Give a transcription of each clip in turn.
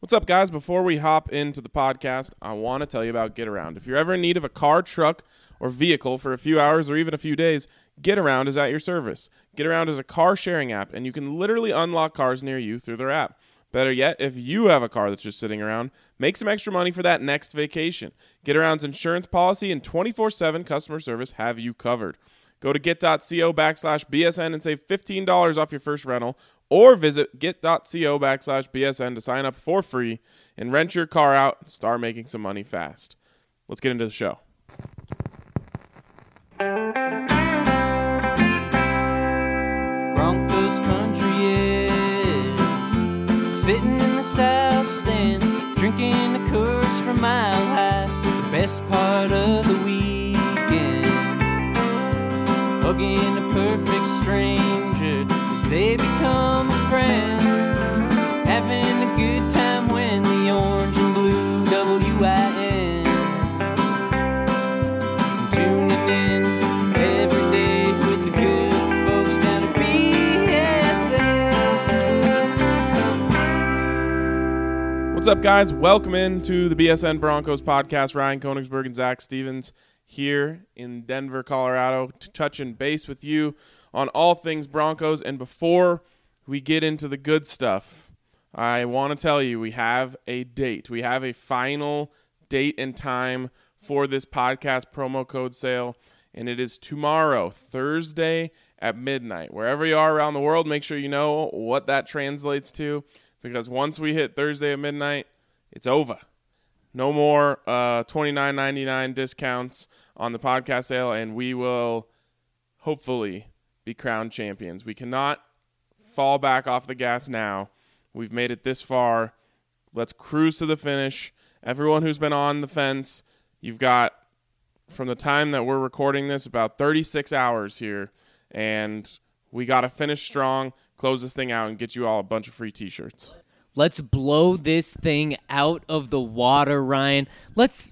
What's up, guys? Before we hop into the podcast, I want to tell you about GetAround. If you're ever in need of a car, truck, or vehicle for a few hours or even a few days, GetAround is at your service. GetAround is a car-sharing app, and you can literally unlock cars near you through their app. Better yet, if you have a car that's just sitting around, make some extra money for that next vacation. GetAround's insurance policy and 24/7 customer service have you covered. Go to get.co/BSN and save $15 off your first rental, or visit get.co/BSN to sign up for free and rent your car out and start making some money fast. Let's get into the show. Broncos country is sitting in the south stands, drinking the Coors from Mile High, the best part of the weekend. Hugging a perfect stranger as they become a friend, having a good time when the orange and blue WIN. Tuning in every day with the good folks down at BSN. What's up, guys? Welcome into the BSN Broncos podcast. Ryan Koenigsberg and Zach Stevens here in Denver, Colorado, to touch and base with you on all things Broncos. And before we get into the good stuff, I want to tell you we have a date. We have a final date and time for this podcast promo code sale, and it is tomorrow, Thursday at midnight. Wherever you are around the world, make sure you know what that translates to, because once we hit Thursday at midnight, it's over. No more $29.99 discounts on the podcast sale, and we will hopefully be crowned champions. We cannot fall back off the gas now. We've made it this far. Let's cruise to the finish. Everyone who's been on the fence, you've got, from the time that we're recording this, about 36 hours here, and we got to finish strong, close this thing out, and get you all a bunch of free t-shirts. Let's blow this thing out of the water, Ryan. Let's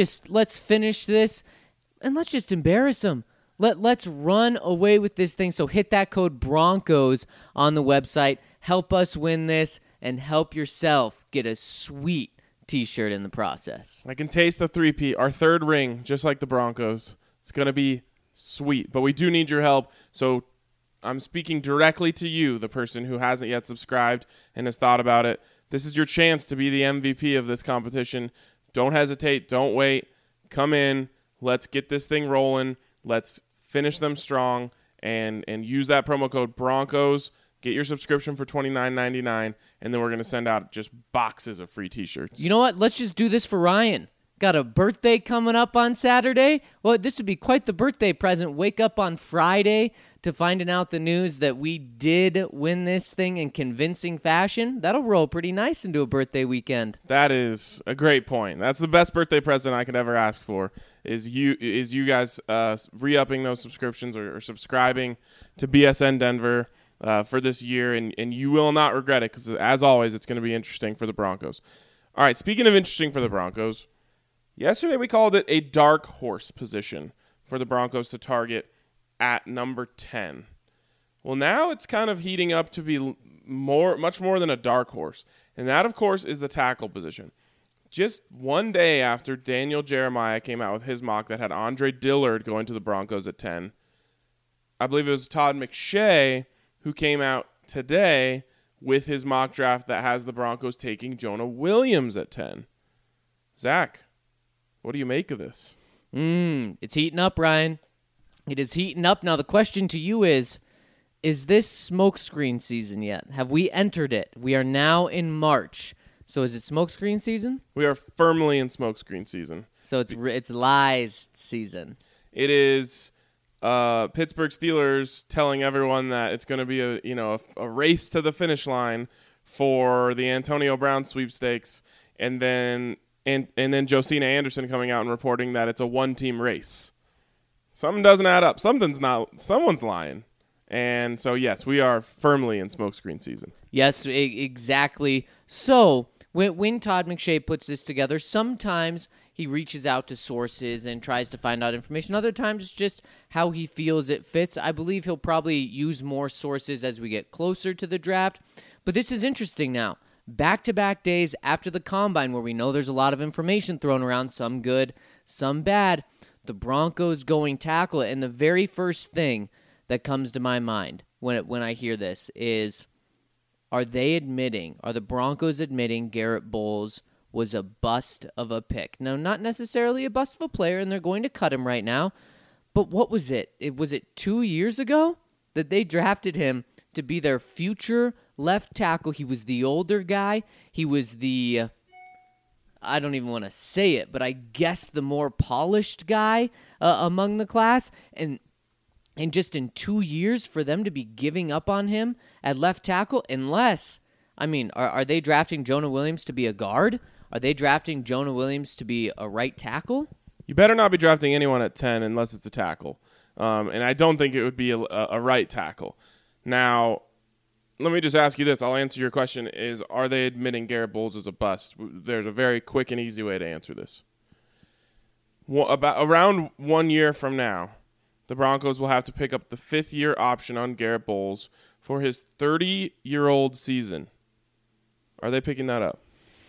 finish this, and let's just embarrass them. Let's run away with this thing. So hit that code Broncos on the website. Help us win this, and help yourself get a sweet t-shirt in the process. I can taste the three-peat, our third ring, just like the Broncos. It's going to be sweet, but we do need your help. So I'm speaking directly to you, the person who hasn't yet subscribed and has thought about it. This is your chance to be the MVP of this competition. Don't hesitate. Don't wait. Come in. Let's get this thing rolling. Let's finish them strong and use that promo code Broncos. Get your subscription for $29.99, and then we're going to send out just boxes of free t-shirts. You know what? Let's just do this for Ryan. Got a birthday coming up on Saturday? Well, this would be quite the birthday present. Wake up on Friday to finding out the news that we did win this thing in convincing fashion. That'll roll pretty nice into a birthday weekend. That is a great point. That's the best birthday present I could ever ask for, is you guys re-upping those subscriptions or subscribing to BSN Denver for this year, and you will not regret it, because, as always, it's going to be interesting for the Broncos. All right, speaking of interesting for the Broncos, yesterday we called it a dark horse position for the Broncos to target at number 10. Well, now it's kind of heating up to be much more than a dark horse, and that, of course, is the tackle position. Just one day after Daniel Jeremiah came out with his mock that had Andre Dillard going to the Broncos at 10, I believe it was Todd McShay who came out today with his mock draft that has the Broncos taking Jonah Williams at 10. Zach, what do you make of this? It's heating up, Ryan. It is heating up. Now, the question to you is this smokescreen season yet? Have we entered it? We are now in March. So is it smokescreen season? We are firmly in smokescreen season. So it's lies season. It is Pittsburgh Steelers telling everyone that it's going to be a race to the finish line for the Antonio Brown sweepstakes, and then Josina Anderson coming out and reporting that it's a one-team race. Something doesn't add up. Someone's lying. And so, yes, we are firmly in smokescreen season. Yes, exactly. So when Todd McShay puts this together, sometimes he reaches out to sources and tries to find out information. Other times it's just how he feels it fits. I believe he'll probably use more sources as we get closer to the draft. But this is interesting now. back-to-back days after the Combine, where we know there's a lot of information thrown around, some good, some bad, the Broncos going tackle. And the very first thing that comes to my mind when I hear this is, are the Broncos admitting Garrett Bowles was a bust of a pick? Now, not necessarily a bust of a player, and they're going to cut him right now, but what was it? Was it 2 years ago that they drafted him to be their future left tackle? He was the older guy. He was the, I don't even want to say it, but I guess the more polished guy among the class. And just in 2 years for them to be giving up on him at left tackle, unless, I mean, are they drafting Jonah Williams to be a guard? Are they drafting Jonah Williams to be a right tackle? You better not be drafting anyone at 10 unless it's a tackle. And I don't think it would be a right tackle. Now, let me just ask you this. I'll answer your question is, are they admitting Garrett Bowles is a bust? There's a very quick and easy way to answer this. Around 1 year from now, the Broncos will have to pick up the 5th-year option on Garrett Bowles for his 30-year-old season. Are they picking that up?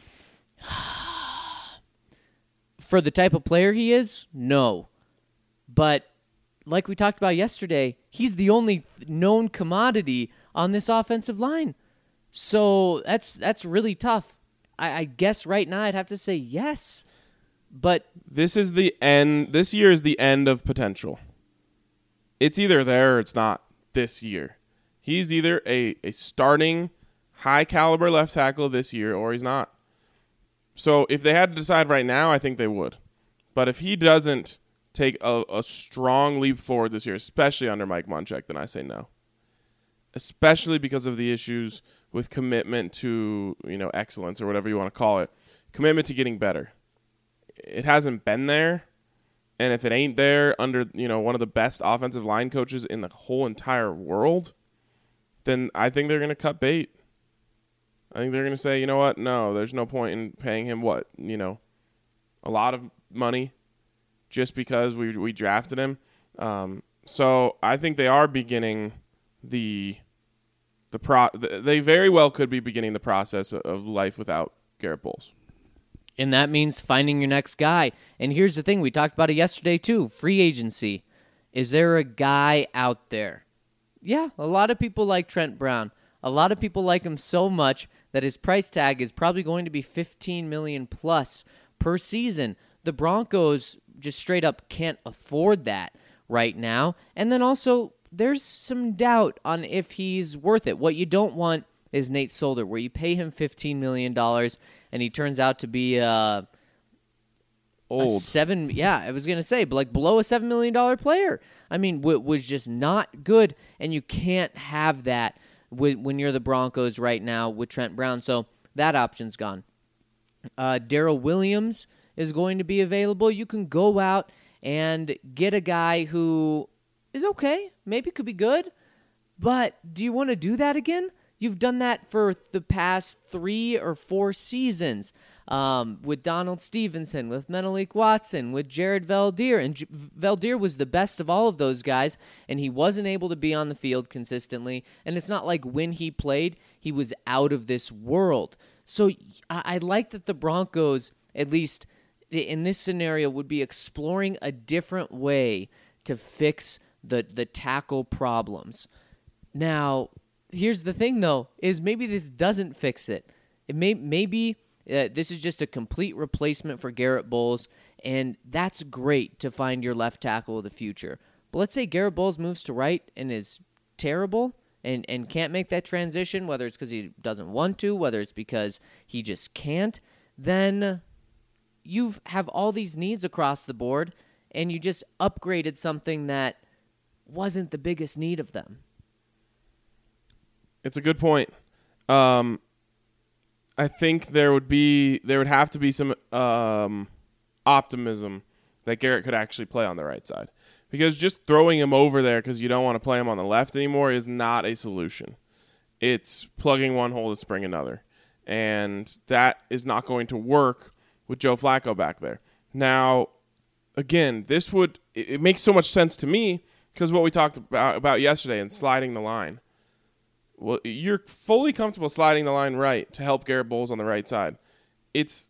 For the type of player he is, no. But like we talked about yesterday, he's the only known commodity on this offensive line. So that's really tough. I guess right now I'd have to say yes. But this is the end. This year is the end of potential. It's either there or it's not this year. He's either a starting high-caliber left tackle this year or he's not. So if they had to decide right now, I think they would. But if he doesn't take a strong leap forward this year, especially under Mike Munchak, then I say no. Especially because of the issues with commitment to, excellence or whatever you want to call it. Commitment to getting better. It hasn't been there. And if it ain't there under, one of the best offensive line coaches in the whole entire world, then I think they're going to cut bait. I think they're going to say, you know what? No, there's no point in paying him a lot of money just because we drafted him. So I think they are beginning they very well could be beginning the process of life without Garrett Bowles. And that means finding your next guy. And here's the thing, we talked about it yesterday too, free agency. Is there a guy out there? Yeah, a lot of people like Trent Brown. A lot of people like him so much that his price tag is probably going to be $15 million plus per season. The Broncos just straight up can't afford that right now. And then also, there's some doubt on if he's worth it. What you don't want is Nate Solder, where you pay him $15 million and he turns out to be old. I was going to say, but below a $7 million player. I mean, was just not good, and you can't have that when you're the Broncos right now with Trent Brown. So that option's gone. Darrell Williams is going to be available. You can go out and get a guy who is okay, maybe could be good, but do you want to do that again? You've done that for the past 3 or 4 seasons with Donald Stevenson, with Menelik Watson, with Jared Veldheer. And Veldheer was the best of all of those guys, and he wasn't able to be on the field consistently. And it's not like when he played, he was out of this world. So I like that the Broncos, at least in this scenario, would be exploring a different way to fix the tackle problems. Now, here's the thing, though, is maybe this doesn't fix it. Maybe this is just a complete replacement for Garrett Bowles, and that's great to find your left tackle of the future. But let's say Garrett Bowles moves to right and is terrible and can't make that transition, whether it's because he doesn't want to, whether it's because he just can't, then you have all these needs across the board, and you just upgraded something that wasn't the biggest need of them. It's a good point. I think there would have to be some optimism that Garrett could actually play on the right side, because just throwing him over there because you don't want to play him on the left anymore is not a solution. It's plugging one hole to spring another, and that is not going to work with Joe Flacco back there. Now, again, it makes so much sense to me because what we talked about yesterday and sliding the line. well, you're fully comfortable sliding the line right to help Garrett Bowles on the right side. It's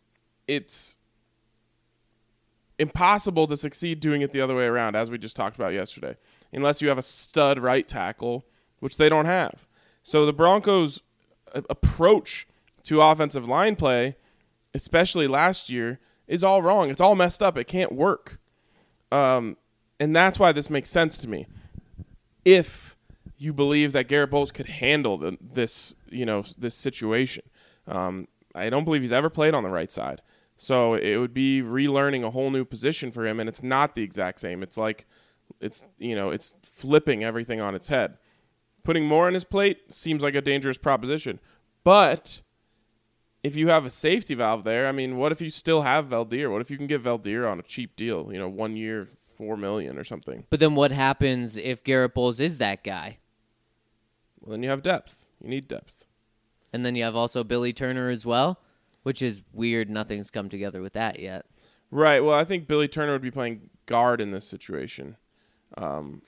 impossible to succeed doing it the other way around, as we just talked about yesterday, unless you have a stud right tackle, which they don't have. So the Broncos' approach to offensive line play, especially last year, is all wrong. It's all messed up. It can't work. And that's why this makes sense to me. If you believe that Garrett Bowles could handle this situation. I don't believe he's ever played on the right side. So it would be relearning a whole new position for him, and it's not the exact same. It's like it's flipping everything on its head. Putting more on his plate seems like a dangerous proposition. But if you have a safety valve there, I mean, what if you still have Valdir? What if you can get Valdir on a cheap deal, 1 year, $4 million or something? But then what happens if Garrett Bowles is that guy? Well, then you have depth. You need depth. And then you have also Billy Turner as well, which is weird. Nothing's come together with that yet. Right. Well, I think Billy Turner would be playing guard in this situation. When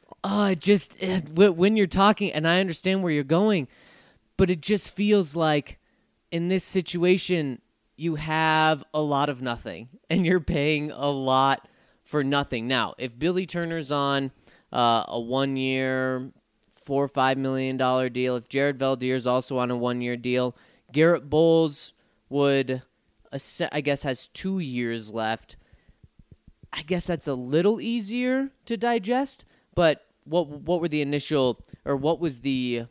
you're talking, and I understand where you're going, but it just feels like in this situation, you have a lot of nothing, and you're paying a lot for nothing. Now, if Billy Turner's on a 1 year, $4 or $5 million deal, if Jared Valdir's also on a 1 year deal, Garrett Bowles would, I guess, has 2 years left. I guess that's a little easier to digest, but what were the initial, or what was the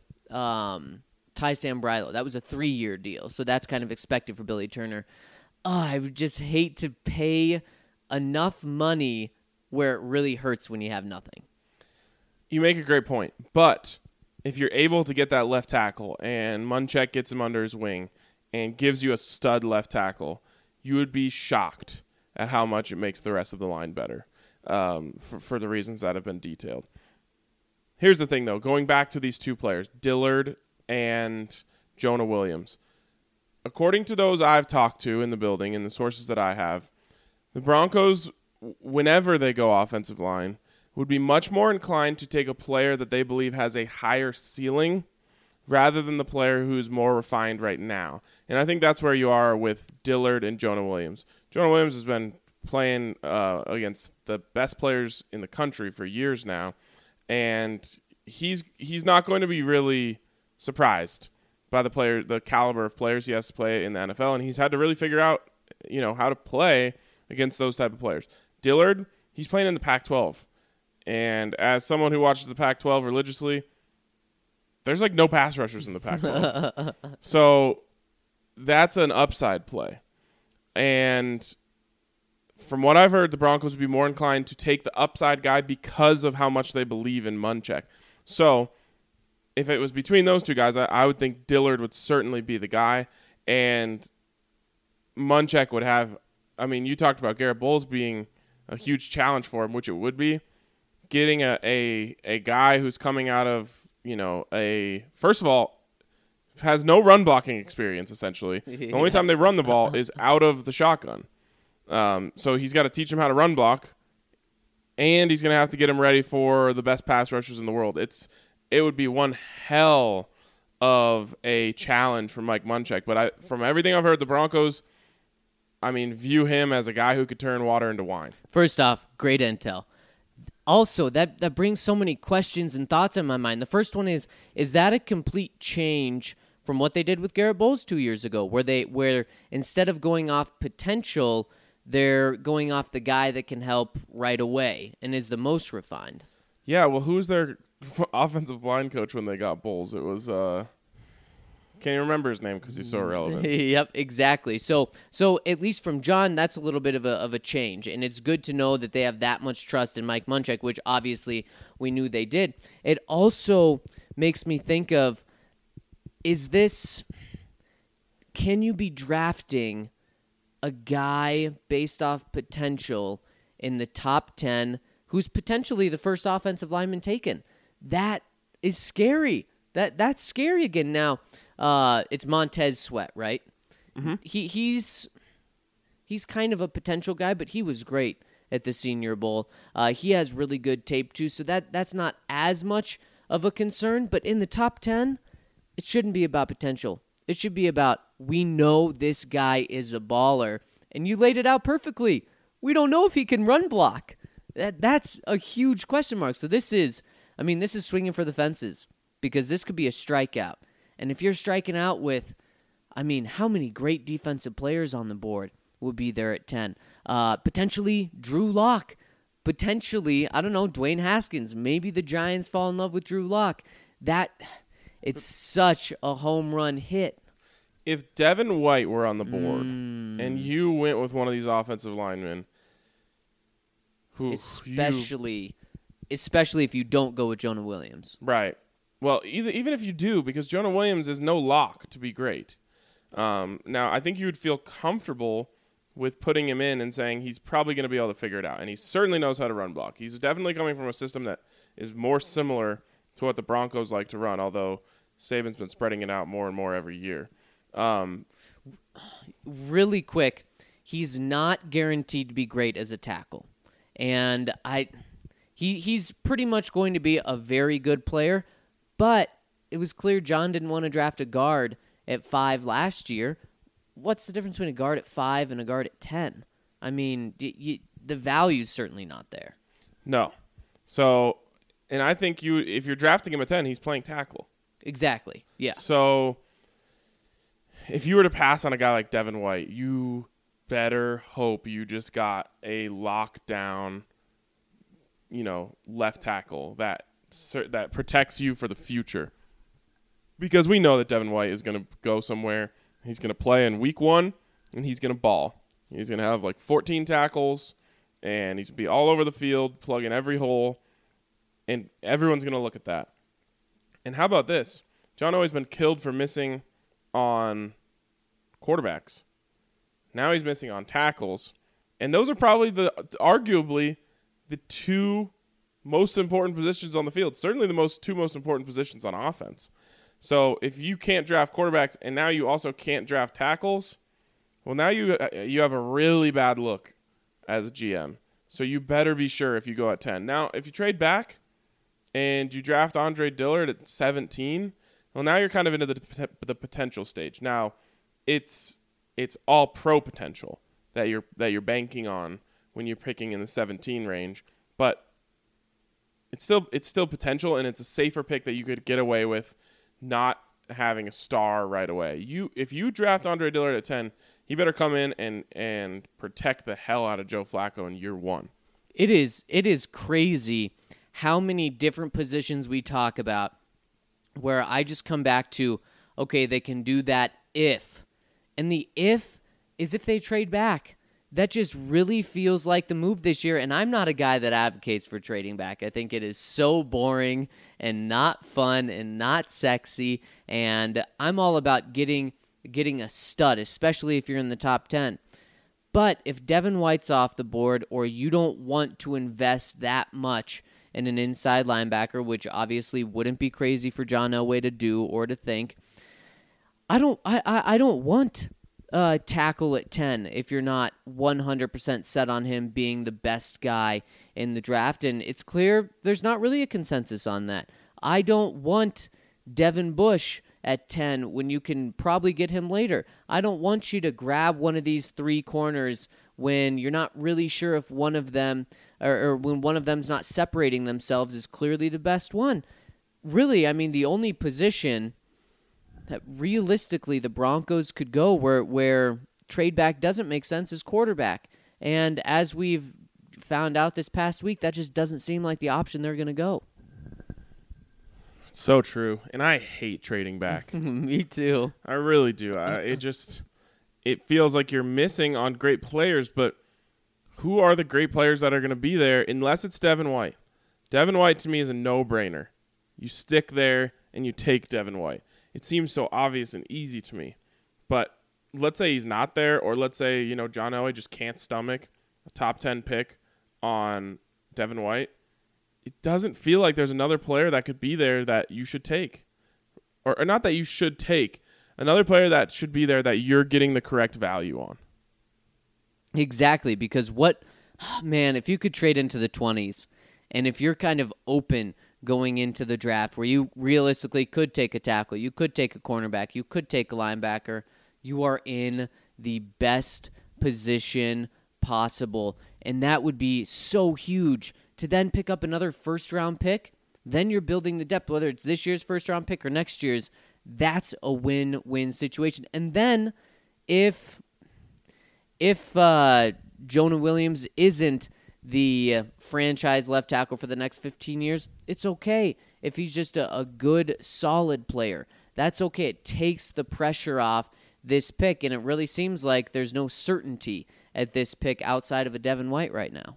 Ty Sambrailo? That was a 3 year deal, so that's kind of expected for Billy Turner. I would just hate to pay enough money where it really hurts when you have nothing. You make a great point, but if you're able to get that left tackle and Munchak gets him under his wing and gives you a stud left tackle, you would be shocked at how much it makes the rest of the line better for the reasons that have been detailed. Here's the thing, though. Going back to these two players, Dillard and Jonah Williams, according to those I've talked to in the building and the sources that I have, the Broncos, whenever they go offensive line, would be much more inclined to take a player that they believe has a higher ceiling rather than the player who's more refined right now. And I think that's where you are with Dillard and Jonah Williams. Jonah Williams has been playing against the best players in the country for years now, and he's not going to be really surprised by the caliber of players he has to play in the NFL, and he's had to really figure out, how to play against those type of players. Dillard, he's playing in the Pac-12. And as someone who watches the Pac-12 religiously, there's like no pass rushers in the Pac-12. So that's an upside play. And from what I've heard, the Broncos would be more inclined to take the upside guy because of how much they believe in Munchak. So if it was between those two guys, I would think Dillard would certainly be the guy. And Munchak would have, you talked about Garrett Bowles being a huge challenge for him, which it would be. Getting a guy who's coming out of, first of all, has no run blocking experience, essentially. The only time they run the ball is out of the shotgun. So he's got to teach him how to run block, and he's going to have to get him ready for the best pass rushers in the world. It would be one hell of a challenge for Mike Munchak. But from everything I've heard, the Broncos, view him as a guy who could turn water into wine. First off, great intel. Also, that brings so many questions and thoughts in my mind. The first one is that a complete change from what they did with Garrett Bowles 2 years ago, where instead of going off potential, they're going off the guy that can help right away and is the most refined? Yeah, well, who was their offensive line coach when they got Bowles? It was can't even remember his name because he's so irrelevant. Yep, exactly. So at least from John, that's a little bit of a change, and it's good to know that they have that much trust in Mike Munchak, which obviously we knew they did. It also makes me think of, can you be drafting a guy based off potential in the top 10 who's potentially the first offensive lineman taken? That is scary. That's scary again. Now, it's Montez Sweat, right? Mm-hmm. He's kind of a potential guy, but he was great at the Senior Bowl. He has really good tape too, so that's not as much of a concern. But in the top 10, it shouldn't be about potential. It should be about, we know this guy is a baller, and you laid it out perfectly. We don't know if he can run block. That's a huge question mark. So this is swinging for the fences, because this could be a strikeout. And if you're striking out with, how many great defensive players on the board would be there at 10? Potentially Drew Lock. Potentially, I don't know, Dwayne Haskins. Maybe the Giants fall in love with Drew Lock. It's such a home run hit. If Devin White were on the board and you went with one of these offensive linemen, especially if you don't go with Jonah Williams. Right. Well, even if you do, because Jonah Williams is no lock to be great. Now, I think you would feel comfortable with putting him in and saying he's probably going to be able to figure it out. And he certainly knows how to run block. He's definitely coming from a system that is more similar to what the Broncos like to run, although Saban's been spreading it out more and more every year. Really quick, he's not guaranteed to be great as a tackle. And he's pretty much going to be a very good player, but it was clear John didn't want to draft a guard at 5 last year. What's the difference between a guard at 5 and a guard at 10? The value's certainly not there. No. So, and I think if you're drafting him at 10, he's playing tackle. Exactly, yeah. So, if you were to pass on a guy like Devin White, you better hope you just got a lockdown, left tackle that protects you for the future. Because we know that Devin White is going to go somewhere. He's going to play in week 1, and he's going to ball. He's going to have 14 tackles, and he's going to be all over the field, plugging every hole, and everyone's going to look at that. And how about this? John Elway's been killed for missing on quarterbacks. Now he's missing on tackles. And those are probably arguably the 2 most important positions on the field. Certainly the 2 most important positions on offense. So if you can't draft quarterbacks and now you also can't draft tackles, well, now you have a really bad look as a GM. So you better be sure if you go at 10. Now, if you trade back and you draft Andre Dillard at 17, well, now you're kind of into the potential stage. Now, it's all pro potential that you're banking on when you're picking in the 17 range, but it's still potential, and it's a safer pick that you could get away with not having a star right away. If you draft Andre Dillard at 10, he better come in and protect the hell out of Joe Flacco in year 1. It is crazy how many different positions we talk about where I just come back to, okay, they can do that if. And the if is if they trade back. That just really feels like the move this year, and I'm not a guy that advocates for trading back. I think it is so boring and not fun and not sexy, and I'm all about getting a stud, especially if you're in the top 10. But if Devin White's off the board, or you don't want to invest that much in an inside linebacker, which obviously wouldn't be crazy for John Elway to do or to think, I don't want tackle at 10 if you're not 100% set on him being the best guy in the draft. And it's clear there's not really a consensus on that. I don't want Devin Bush at 10 when you can probably get him later. I don't want you to grab one of these 3 corners when you're not really sure if one of them or when one of them's not separating themselves is clearly the best one. Really, the only position that realistically the Broncos could go where trade back doesn't make sense is quarterback. And as we've found out this past week, that just doesn't seem like the option they're going to go. It's so true. And I hate trading back. Me too. I really do. It feels like you're missing on great players, but who are the great players that are going to be there unless it's Devin White? Devin White to me is a no-brainer. You stick there and you take Devin White. It seems so obvious and easy to me. But let's say he's not there, or let's say, John Elway just can't stomach a top 10 pick on Devin White. It doesn't feel like there's another player that could be there that you should take. Or not that you should take. Another player that should be there that you're getting the correct value on. Exactly, because if you could trade into the 20s, and if you're kind of open going into the draft where you realistically could take a tackle, you could take a cornerback, you could take a linebacker. You are in the best position possible, and that would be so huge to then pick up another first-round pick. Then you're building the depth, whether it's this year's first-round pick or next year's. That's a win-win situation. And then if Jonah Williams isn't the franchise left tackle for the next 15 years, it's okay. If he's just a good, solid player, that's okay. It takes the pressure off this pick, and it really seems like there's no certainty at this pick outside of a Devin White right now.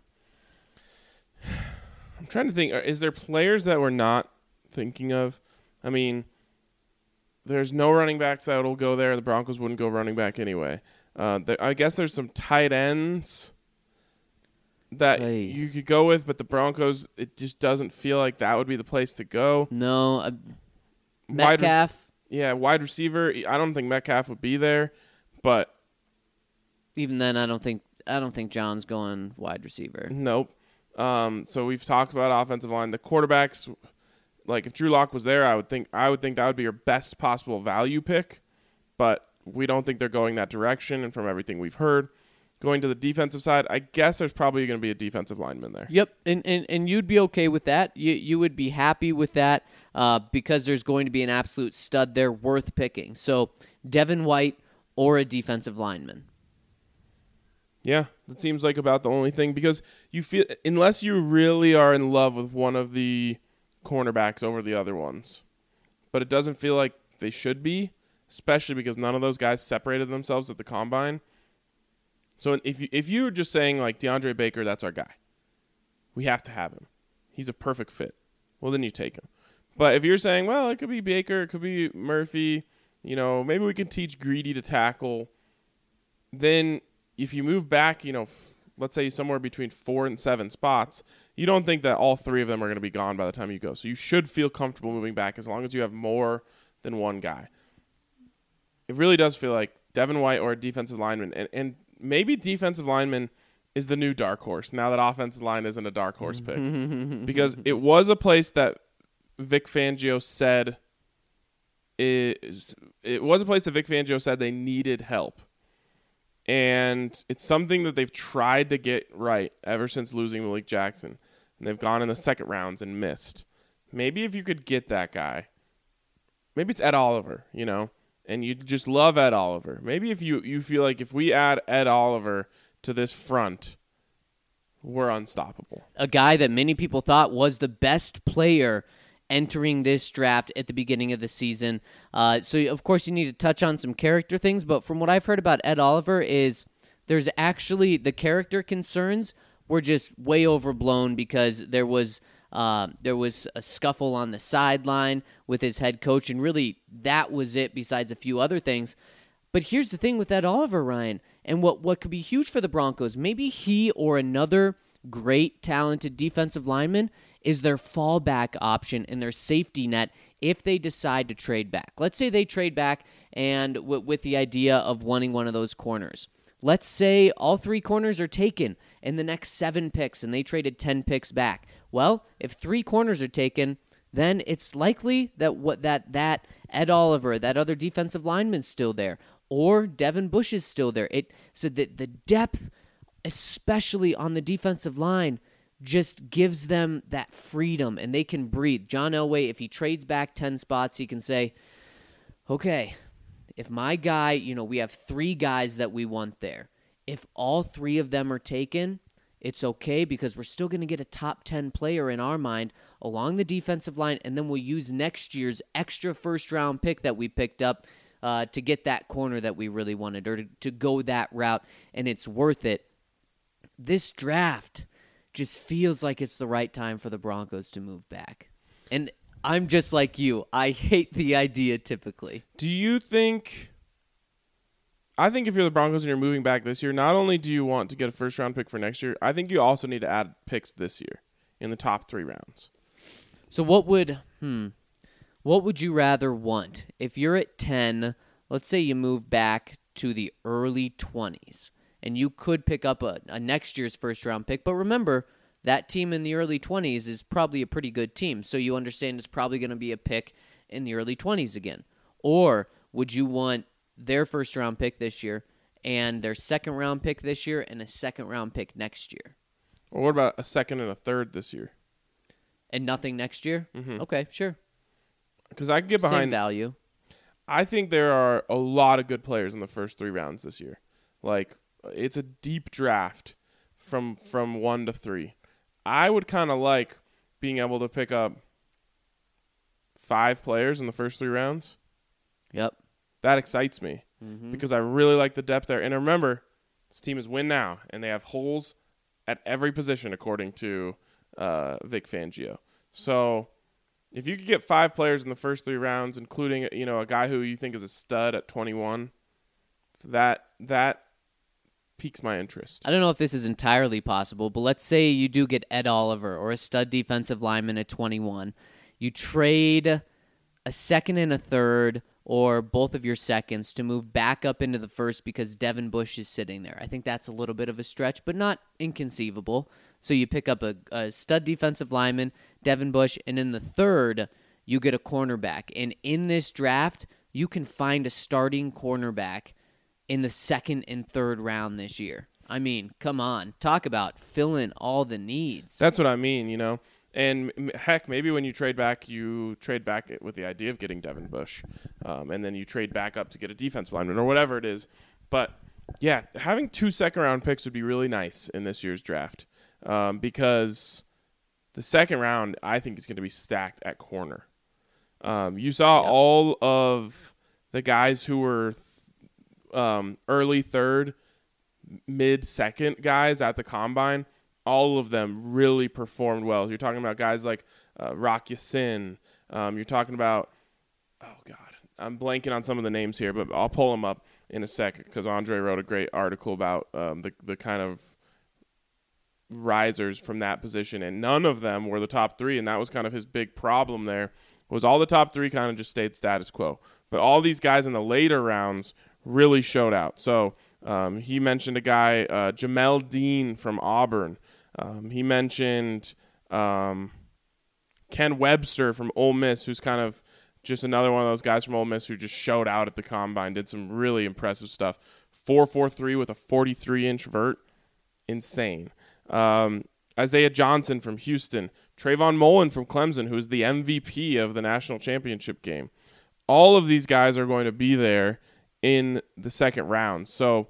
I'm trying to think. Is there players that we're not thinking of? I mean, there's no running backs that will go there. The Broncos wouldn't go running back anyway. I guess there's some tight ends that you could go with, but the Broncos, it just doesn't feel like that would be the place to go. No. Metcalf. Wide receiver. I don't think Metcalf would be there, but even then, I don't think John's going wide receiver. Nope. So we've talked about offensive line. The quarterbacks, like if Drew Lock was there, I would think that would be your best possible value pick, but we don't think they're going that direction. And from everything we've heard, going to the defensive side, I guess there's probably going to be a defensive lineman there. Yep, and you'd be okay with that. You would be happy with that because there's going to be an absolute stud there worth picking. So Devin White or a defensive lineman. Yeah, that seems like about the only thing, because you feel, unless you really are in love with one of the cornerbacks over the other ones, but it doesn't feel like they should be, especially because none of those guys separated themselves at the combine. So if you're just saying like DeAndre Baker, that's our guy, we have to have him, he's a perfect fit, well then you take him. But if you're saying, well, it could be Baker, it could be Murphy, maybe we can teach Greedy to tackle, then if you move back, let's say somewhere between 4 and 7 spots, you don't think that all 3 of them are going to be gone by the time you go. So you should feel comfortable moving back as long as you have more than one guy. It really does feel like Devin White or a defensive lineman, and maybe defensive lineman is the new dark horse now that offensive line isn't a dark horse pick. Because it was a place that Vic Fangio said they needed help. And it's something that they've tried to get right ever since losing Malik Jackson. And they've gone in the second rounds and missed. Maybe if you could get that guy, maybe it's Ed Oliver, and you just love Ed Oliver. Maybe if you feel like if we add Ed Oliver to this front, we're unstoppable. A guy that many people thought was the best player entering this draft at the beginning of the season. So, of course, you need to touch on some character things, but from what I've heard about Ed Oliver is there's actually the character concerns were just way overblown because there was a scuffle on the sideline with his head coach, and really that was it besides a few other things. But here's the thing with Ed Oliver, Ryan, and what could be huge for the Broncos, maybe he or another great, talented defensive lineman is their fallback option and their safety net if they decide to trade back. Let's say they trade back and with the idea of wanting one of those corners. Let's say all 3 corners are taken in the next 7 picks and they traded 10 picks back. Well, if 3 corners are taken, then it's likely that Ed Oliver, that other defensive lineman's still there, or Devin Bush is still there. It said that the depth, especially on the defensive line, just gives them that freedom, and they can breathe. John Elway, if he trades back 10 spots, he can say, okay, if my guy, we have 3 guys that we want there. If all 3 of them are taken, it's okay because we're still going to get a top 10 player in our mind along the defensive line, and then we'll use next year's extra first-round pick that we picked up to get that corner that we really wanted, or to go that route, and it's worth it. This draft just feels like it's the right time for the Broncos to move back. And I'm just like you. I hate the idea typically. Do you think... I think if you're the Broncos and you're moving back this year, not only do you want to get a first-round pick for next year, I think you also need to add picks this year in the top 3 rounds. So what would you rather want? If you're at 10, let's say you move back to the early 20s, and you could pick up a next year's first-round pick. But remember, that team in the early 20s is probably a pretty good team. So you understand it's probably going to be a pick in the early 20s again. Or would you want their first-round pick this year and their second-round pick this year and a second-round pick next year? Or what about a second and a third this year? And nothing next year? Mm-hmm. Okay, sure. Because I can get behind Same value. I think there are a lot of good players in the first 3 rounds this year. Like, it's a deep draft from 1 to 3. I would kind of like being able to pick up 5 players in the first 3 rounds. Yep. That excites me because I really like the depth there. And remember, this team is win now, and they have holes at every position according to Vic Fangio. So if you could get 5 players in the first 3 rounds, including a guy who you think is a stud at 21, that piques my interest. I don't know if this is entirely possible, but let's say you do get Ed Oliver or a stud defensive lineman at 21. You trade a second and a third or both of your seconds to move back up into the first because Devin Bush is sitting there. I think that's a little bit of a stretch, but not inconceivable. So you pick up a stud defensive lineman, Devin Bush, and in the third, you get a cornerback. And in this draft, you can find a starting cornerback in the second and third round this year. I mean, come on. Talk about filling all the needs. That's what I mean, And heck, maybe when you trade back with the idea of getting Devin Bush, and then you trade back up to get a defensive lineman or whatever it is. But yeah, having 2 second-round picks would be really nice in this year's draft because the second round I think is going to be stacked at corner. You saw all of the guys who were early third, mid-second guys at the combine. All of them really performed well. You're talking about guys like Rock Ya-Sin. You're talking about, I'm blanking on some of the names here, but I'll pull them up in a sec because Andre wrote a great article about the kind of risers from that position, and none of them were the top 3, and that was kind of his big problem there, was all the top 3 kind of just stayed status quo. But all these guys in the later rounds really showed out. So he mentioned a guy, Jamel Dean from Auburn. He mentioned Ken Webster from Ole Miss, who's kind of just another one of those guys from Ole Miss who just showed out at the combine, did some really impressive stuff. 4.43 with a 43-inch vert. Insane. Isaiah Johnson from Houston. Trayvon Mullen from Clemson, who is the MVP of the national championship game. All of these guys are going to be there in the second round. So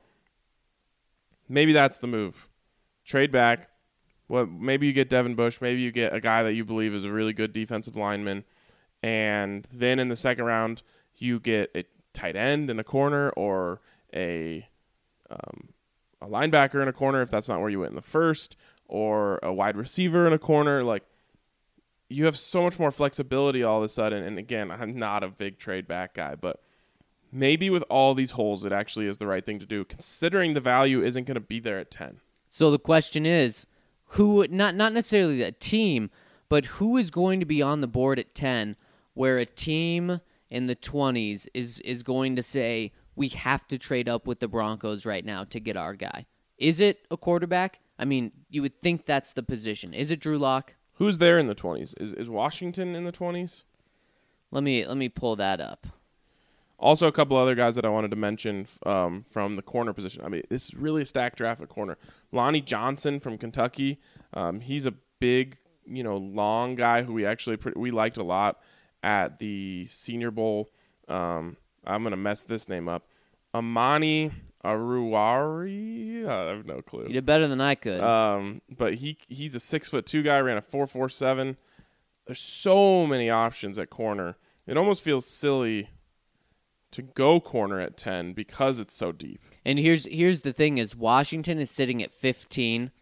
maybe that's the move. Trade back. Well, maybe you get Devin Bush. Maybe you get a guy that you believe is a really good defensive lineman. And then in the second round, you get a tight end in a corner or a linebacker in a corner if that's not where you went in the first, or a wide receiver in a corner. Like, you have so much more flexibility all of a sudden. And again, I'm not a big trade back guy, but maybe with all these holes, it actually is the right thing to do, considering the value isn't going to be there at 10. So the question is, who, not necessarily a team, but who is going to be on the board at 10 where a team in the 20s is going to say, we have to trade up with the Broncos right now to get our guy? Is it a quarterback? I mean, you would think that's the position. Is it Drew Lock? Who's there in the 20s? Is Washington in the 20s? Let me pull that up. Also, a couple other guys that I wanted to mention from the corner position. I mean, this is really a stacked draft at corner. Lonnie Johnson from Kentucky. He's a big, long guy who we liked a lot at the Senior Bowl. I'm going to mess this name up. Amani Aruwari? I have no clue. You did better than I could. But he's a 6'2" guy, ran a 4.47. There's so many options at corner. It almost feels silly to go corner at 10 because it's so deep. And here's the thing is Washington is sitting at 15.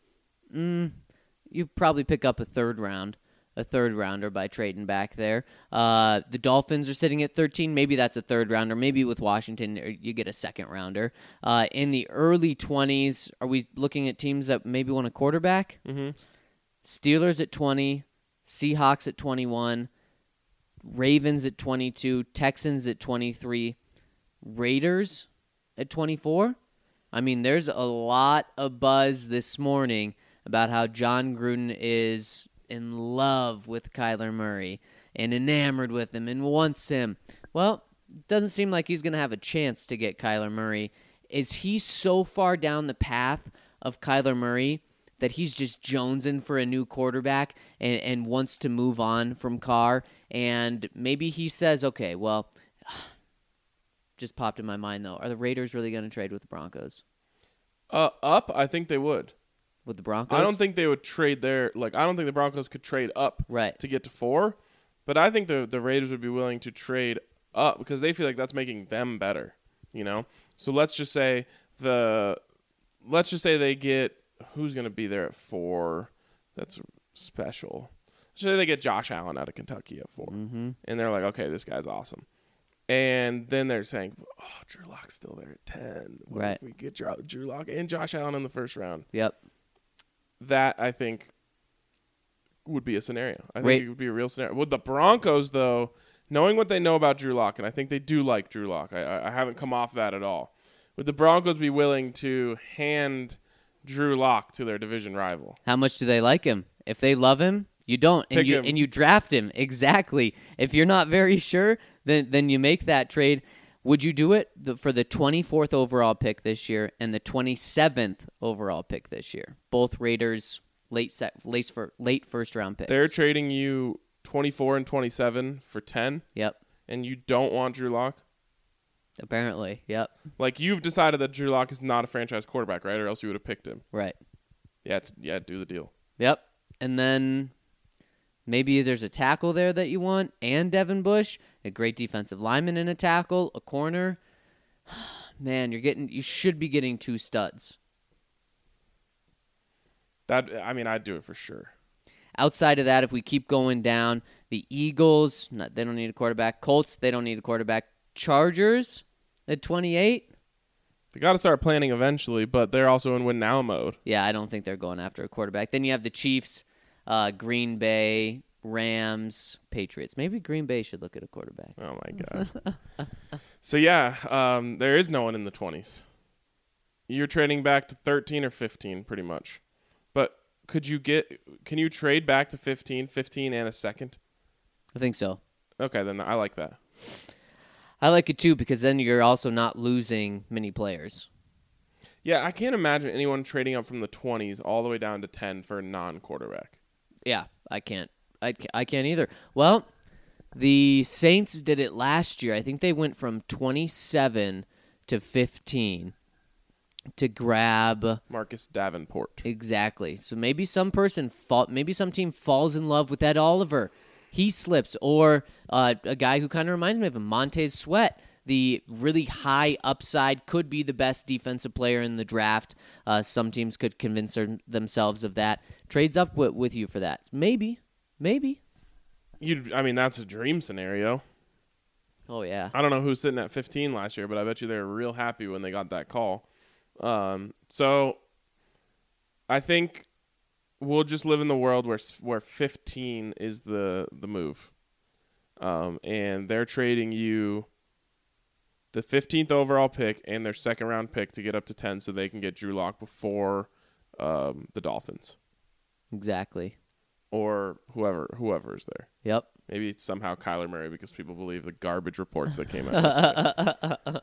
You probably pick up a third rounder by trading back there. The Dolphins are sitting at 13. Maybe that's a third rounder. Maybe with Washington you get a second rounder. In the early 20s, are we looking at teams that maybe want a quarterback? Mm-hmm. Steelers at 20, Seahawks at 21, Ravens at 22, Texans at 23, Raiders at 24. I mean, there's a lot of buzz this morning about how John Gruden is in love with Kyler Murray and enamored with him and wants him. Well, it doesn't seem like he's going to have a chance to get Kyler Murray. Is he so far down the path of Kyler Murray that he's just jonesing for a new quarterback and wants to move on from Carr? And maybe he says, okay, well, just popped in my mind, though. Are the Raiders really going to trade with the Broncos? Up, I think they would. With the Broncos? I don't think they would trade there. Like, I don't think the Broncos could trade up to get to 4. But I think the Raiders would be willing to trade up because they feel like that's making them better, you know? So let's just say they get who's going to be there at 4. That's special. Let's say they get Josh Allen out of Kentucky at 4. Mm-hmm. And they're like, okay, this guy's awesome. And then they're saying, oh, Drew Lock's still there at 10. What right. if we get Drew Lock and Josh Allen in the first round? Yep. That, I think, would be a scenario. I think it would be a real scenario. With the Broncos, though, knowing what they know about Drew Lock, and I think they do like Drew Lock. I haven't come off that at all. Would the Broncos be willing to hand Drew Lock to their division rival? How much do they like him? If they love him, you don't, and you draft him. Exactly. If you're not very sure, then you make that trade. Would you do it for the 24th overall pick this year and the 27th overall pick this year? Both Raiders late first round picks. They're trading you 24 and 27 for 10. Yep. And you don't want Drew Lock? Apparently, yep. Like, you've decided that Drew Lock is not a franchise quarterback, right? Or else you would have picked him. Right. Yeah, do the deal. Yep. And then maybe there's a tackle there that you want, and Devin Bush, a great defensive lineman in a tackle, a corner. Man, you should be getting 2 studs. I'd do it for sure. Outside of that, if we keep going down, the Eagles, they don't need a quarterback. Colts, they don't need a quarterback. Chargers at 28. They got to start planning eventually, but they're also in win now mode. Yeah, I don't think they're going after a quarterback. Then you have the Chiefs, Green Bay, Rams, Patriots. Maybe Green Bay should look at a quarterback. Oh, my God. So, yeah, there is no one in the 20s. You're trading back to 13 or 15 pretty much. But can you trade back to 15 and a second? I think so. Okay, then I like that. I like it too because then you're also not losing many players. Yeah, I can't imagine anyone trading up from the 20s all the way down to 10 for a non-quarterback. Yeah, I can't. I can't either. Well, the Saints did it last year. I think they went from 27 to 15 to grab Marcus Davenport. Exactly. So maybe some team falls in love with Ed Oliver. He slips, or a guy who kind of reminds me of him, Montez Sweat, the really high upside, could be the best defensive player in the draft. Some teams could convince themselves of that. Trades up with you for that. Maybe. That's a dream scenario. Oh, yeah. I don't know who's sitting at 15 last year, but I bet you they were real happy when they got that call. So I think we'll just live in the world where 15 is the move. And they're trading you the 15th overall pick and their second round pick to get up to 10 so they can get Drew Lock before the Dolphins. Exactly. Or whoever is there. Yep. Maybe it's somehow Kyler Murray because people believe the garbage reports that came out.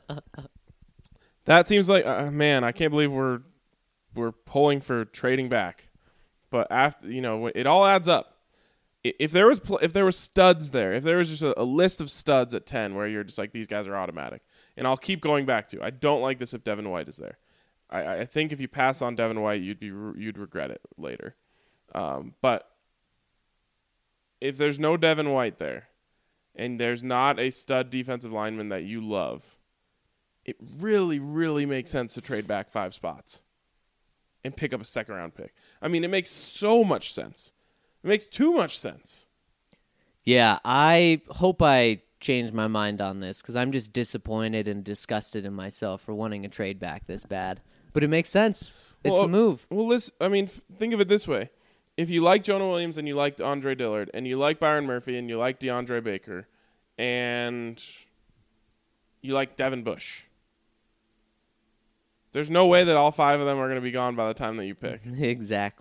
That seems like, man, I can't believe we're pulling for trading back. But after, it all adds up. If there was studs there, if there was just a list of studs at 10 where you're just like, these guys are automatic, and I'll keep going back to, I don't like this if Devin White is there. I think if you pass on Devin White, you'd regret it later. But if there's no Devin White there, and there's not a stud defensive lineman that you love, it really, really makes sense to trade back 5 spots and pick up a second-round pick. I mean, it makes so much sense. It makes too much sense. Yeah, I hope I change my mind on this because I'm just disappointed and disgusted in myself for wanting a trade back this bad. But it makes sense. It's a move. Well, listen, think of it this way. If you like Jonah Williams and you like Andre Dillard and you like Byron Murphy and you like DeAndre Baker and you like Devin Bush, there's no way that all 5 of them are going to be gone by the time that you pick. Exactly.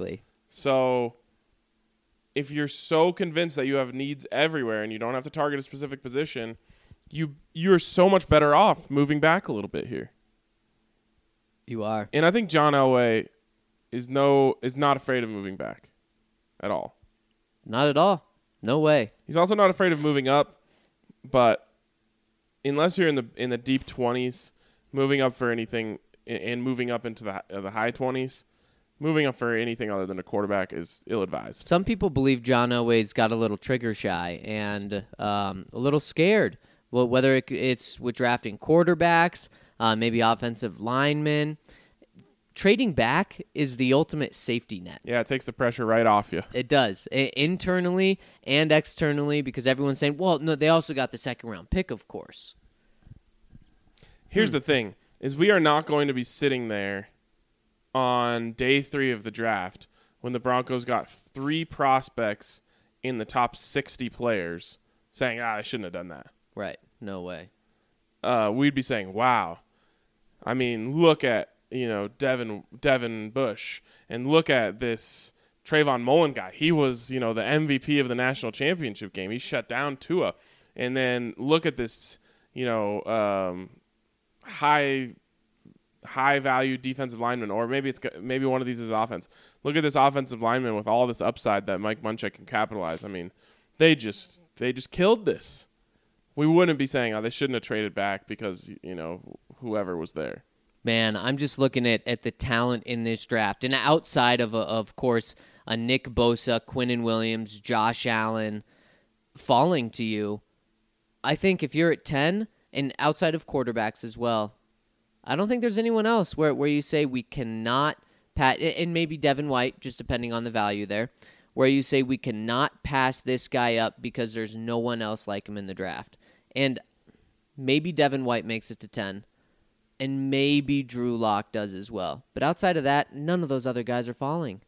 So if you're so convinced that you have needs everywhere and you don't have to target a specific position, you're so much better off moving back a little bit here. You are. And I think John Elway is not afraid of moving back at all. Not at all. No way. He's also not afraid of moving up, but unless you're in the deep 20s, moving up for anything and moving up into the high 20s, moving up for anything other than a quarterback is ill-advised. Some people believe John Elway's got a little trigger shy and a little scared. Well, whether it's with drafting quarterbacks, maybe offensive linemen. Trading back is the ultimate safety net. Yeah, it takes the pressure right off you. It does, internally and externally, because everyone's saying, well, no, they also got the second-round pick, of course. Here's the thing, is we are not going to be sitting there on day 3 of the draft when the Broncos got 3 prospects in the top 60 players saying, I shouldn't have done that. Right, no way. We'd be saying, wow. I mean, look at, Devin Bush, and look at this Trayvon Mullen guy. He was, the MVP of the national championship game. He shut down Tua. And then look at this, high value defensive lineman, or maybe one of these is offense. Look at this offensive lineman with all this upside that Mike Munchak can capitalize. I mean, they just killed this. We wouldn't be saying, they shouldn't have traded back because, whoever was there. Man, I'm just looking at the talent in this draft. And outside of course, a Nick Bosa, Quinnen Williams, Josh Allen falling to you, I think if you're at 10, and outside of quarterbacks as well, I don't think there's anyone else where you say we cannot and maybe Devin White, just depending on the value there, where you say we cannot pass this guy up because there's no one else like him in the draft. And maybe Devin White makes it to 10. And maybe Drew Lock does as well. But outside of that, none of those other guys are falling.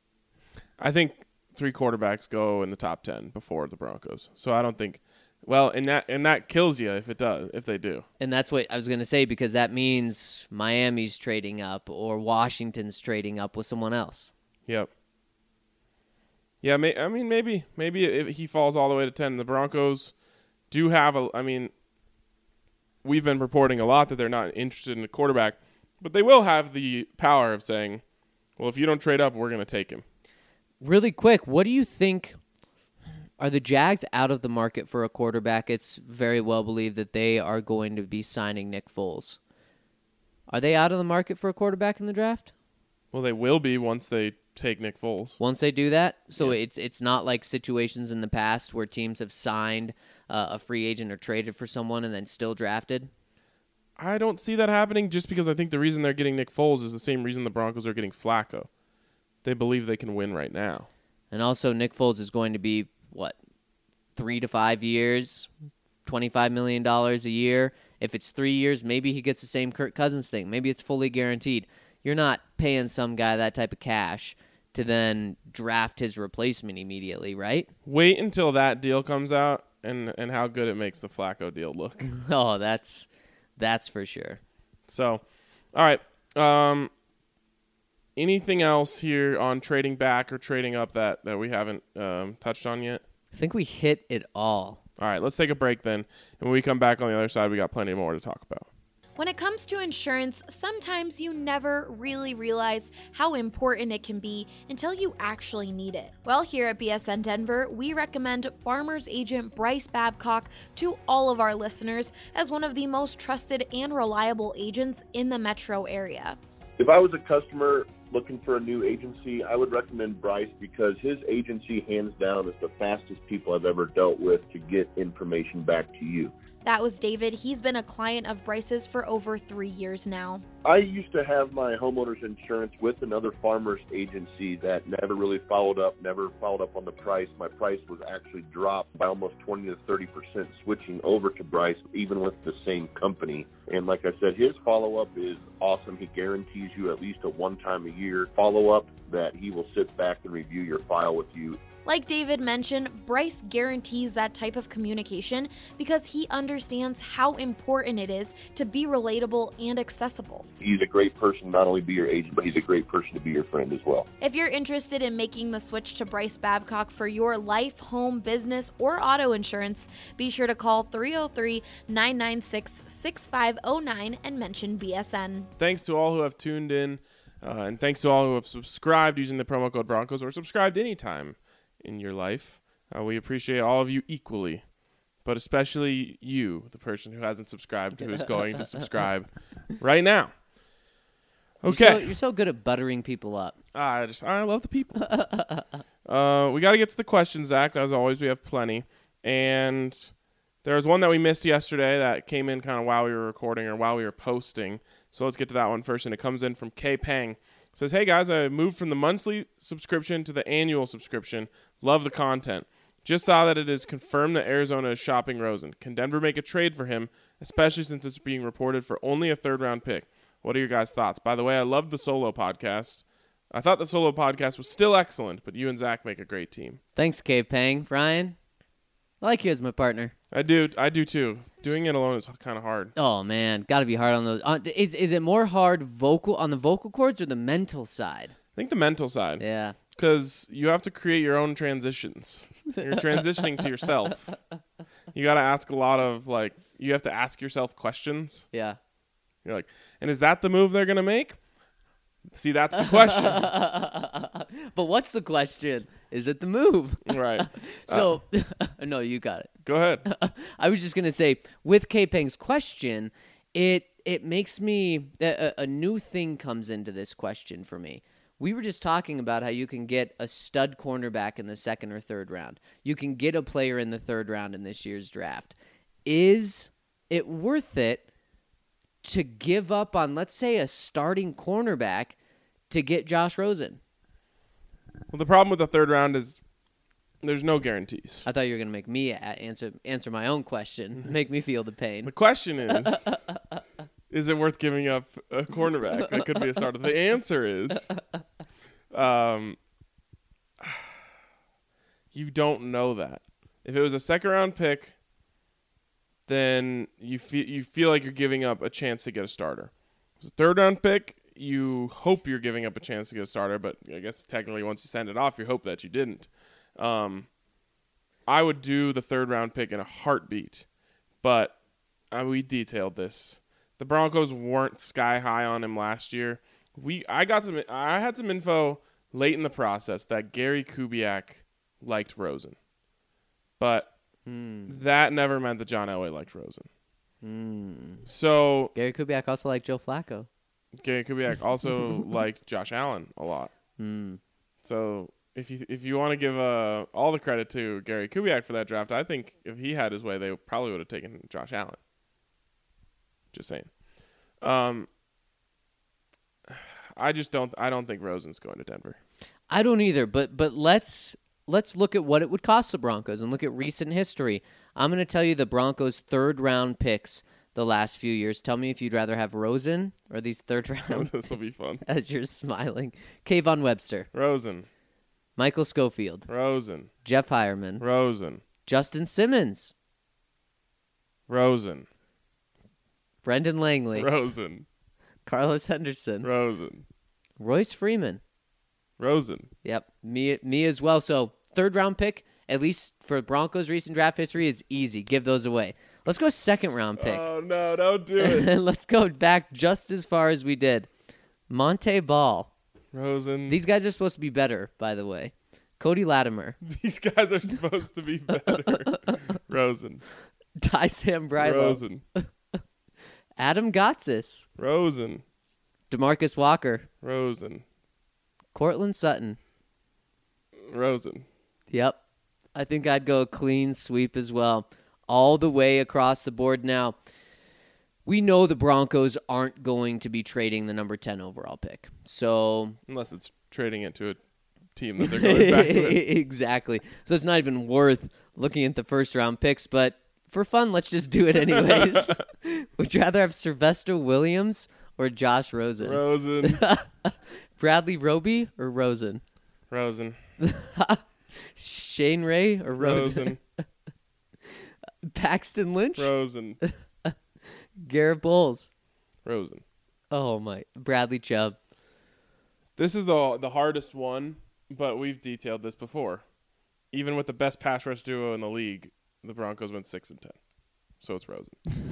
I think 3 quarterbacks go in the top 10 before the Broncos. So I don't think, and that kills you if they do. And that's what I was going to say, because that means Miami's trading up or Washington's trading up with someone else. Yep. Yeah, maybe if he falls all the way to 10, the Broncos do have we've been reporting a lot that they're not interested in a quarterback, but they will have the power of saying, well, if you don't trade up, we're going to take him. Really quick, what do you think? Are the Jags out of the market for a quarterback? It's very well believed that they are going to be signing Nick Foles. Are they out of the market for a quarterback in the draft? Well, they will be once they take Nick Foles. Once they do that? So yeah. It's not like situations in the past where teams have signed a free agent or traded for someone and then still drafted? I don't see that happening, just because I think the reason they're getting Nick Foles is the same reason the Broncos are getting Flacco. They believe they can win right now. And also Nick Foles is going to be, 3 to 5 years, $25 million a year. If it's 3 years, maybe he gets the same Kirk Cousins thing. Maybe it's fully guaranteed. You're not paying some guy that type of cash to then draft his replacement immediately, right? Wait until that deal comes out and how good it makes the Flacco deal look. Oh, that's for sure. So, all right. Anything else here on trading back or trading up that we haven't touched on yet? I think we hit it all. All right, let's take a break then. And when we come back on the other side, we got plenty more to talk about. When it comes to insurance, sometimes you never really realize how important it can be until you actually need it. Well, here at BSN Denver, we recommend Farmers Agent Bryce Babcock to all of our listeners as one of the most trusted and reliable agents in the metro area. If I was a customer looking for a new agency, I would recommend Bryce because his agency, hands down, is the fastest people I've ever dealt with to get information back to you. That was David. He's been a client of Bryce's for over 3 years now. I used to have my homeowner's insurance with another farmer's agency that never really followed up on the price. My price was actually dropped by almost 20 to 30% switching over to Bryce, even with the same company. And like I said, his follow-up is awesome. He guarantees you at least a one-time-a-year follow-up that he will sit back and review your file with you Like David mentioned, Bryce guarantees that type of communication because he understands how important it is to be relatable and accessible. He's a great person to not only be your agent, but he's a great person to be your friend as well. If you're interested in making the switch to Bryce Babcock for your life, home, business, or auto insurance, be sure to call 303-996-6509 and mention BSN. Thanks to all who have tuned in, and thanks to all who have subscribed using the promo code Broncos or subscribed anytime in your life. We appreciate all of you equally, but especially you, the person who hasn't subscribed, who is going to subscribe right now. Okay. You're so good at buttering people up. I love the people. We got to get to the questions, Zach. As always, we have plenty. And there was one that we missed yesterday that came in kind of while we were recording or while we were posting. So let's get to that one first. And it comes in from K Pang. It says, hey, guys, I moved from the monthly subscription to the annual subscription. Love the content. Just saw that it is confirmed that Arizona is shopping Rosen. Can Denver make a trade for him, especially since it's being reported for only a third-round pick? What are your guys' thoughts? By the way, I loved the solo podcast. I thought the solo podcast was still excellent, but you and Zach make a great team. Thanks, Cave Pang. Ryan, I like you as my partner. I do too. Doing it alone is kind of hard. Oh, man. Got to be hard on those. Is it more hard on the vocal cords or the mental side? I think the mental side. Yeah. Because you have to create your own transitions. You're transitioning to yourself. You got to ask a lot of, you have to ask yourself questions. Yeah. You're like, and is that the move they're going to make? See, that's the question. But what's the question? Is it the move? Right. So, no, you got it. Go ahead. I was just going to say, with K-Peng's question, it makes me, a new thing comes into this question for me. We were just talking about how you can get a stud cornerback in the second or third round. You can get a player in the third round in this year's draft. Is it worth it to give up on, let's say, a starting cornerback to get Josh Rosen? Well, the problem with the third round is there's no guarantees. I thought you were going to make me answer my own question, make me feel the pain. The question is it worth giving up a cornerback that could be a starter? The answer is you don't know that. If it was a second-round pick, then you feel like you're giving up a chance to get a starter. If it's a third-round pick, you hope you're giving up a chance to get a starter, but I guess technically once you send it off, you hope that you didn't. I would do the third-round pick in a heartbeat, but we detailed this. The Broncos weren't sky high on him last year. I had some info late in the process that Gary Kubiak liked Rosen, but that never meant that John Elway liked Rosen. So Gary Kubiak also liked Joe Flacco. Gary Kubiak also liked Josh Allen a lot. So if you want to give all the credit to Gary Kubiak for that draft, I think if he had his way, they probably would have taken Josh Allen. Just saying. I don't think Rosen's going to Denver. I don't either, but let's look at what it would cost the Broncos and look at recent history. I'm going to tell you the Broncos' third-round picks the last few years. Tell me if you'd rather have Rosen or these third-round This will be fun. as you're smiling. Kayvon Webster. Rosen. Michael Schofield. Rosen. Jeff Hireman. Rosen. Justin Simmons. Rosen. Brendan Langley. Rosen. Carlos Henderson. Rosen. Royce Freeman. Rosen. Yep, me as well. So third-round pick, at least for Broncos' recent draft history, is easy. Give those away. Let's go second-round pick. Oh, no, don't do it. Let's go back just as far as we did. Monte Ball. Rosen. These guys are supposed to be better, by the way. Cody Latimer. These guys are supposed to be better. Rosen. Ty Sambrailo. Rosen. Adam Gotsis. Rosen. DeMarcus Walker. Rosen. Cortland Sutton. Rosen. Yep. I think I'd go a clean sweep as well. All the way across the board now. We know the Broncos aren't going to be trading the number 10 overall pick. So Unless it's trading it to a team that they're going back with. Exactly. So it's not even worth looking at the first-round picks, but for fun, let's just do it anyways. Would you rather have Sylvester Williams or Josh Rosen? Rosen. Bradley Roby or Rosen? Rosen. Shane Ray or Rosen? Paxton Lynch? Rosen. Garrett Bowles. Rosen. Oh, my. Bradley Chubb. This is the hardest one, but we've detailed this before. Even with the best pass rush duo in the league, the Broncos went 6-10. So it's Rosen.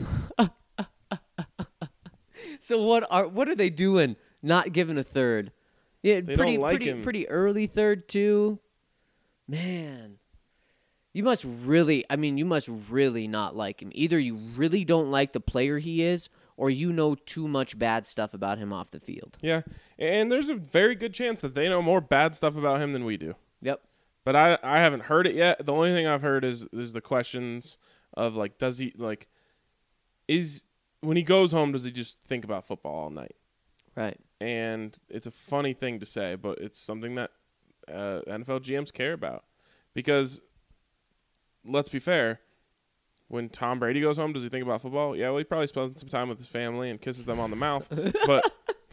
So what are they doing? Not giving a third? Yeah, They don't like him. Pretty early third too. Man, you must really not like him. Either you really don't like the player he is, or you know too much bad stuff about him off the field. Yeah, and there's a very good chance that they know more bad stuff about him than we do. Yep. But I haven't heard it yet. The only thing I've heard is the questions of, like, does he, like, when he goes home, does he just think about football all night? Right. And it's a funny thing to say, but it's something that NFL GMs care about. Because, let's be fair, when Tom Brady goes home, does he think about football? Yeah, well, he probably spends some time with his family and kisses them on the mouth. But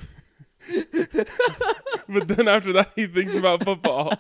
but then after that, he thinks about football.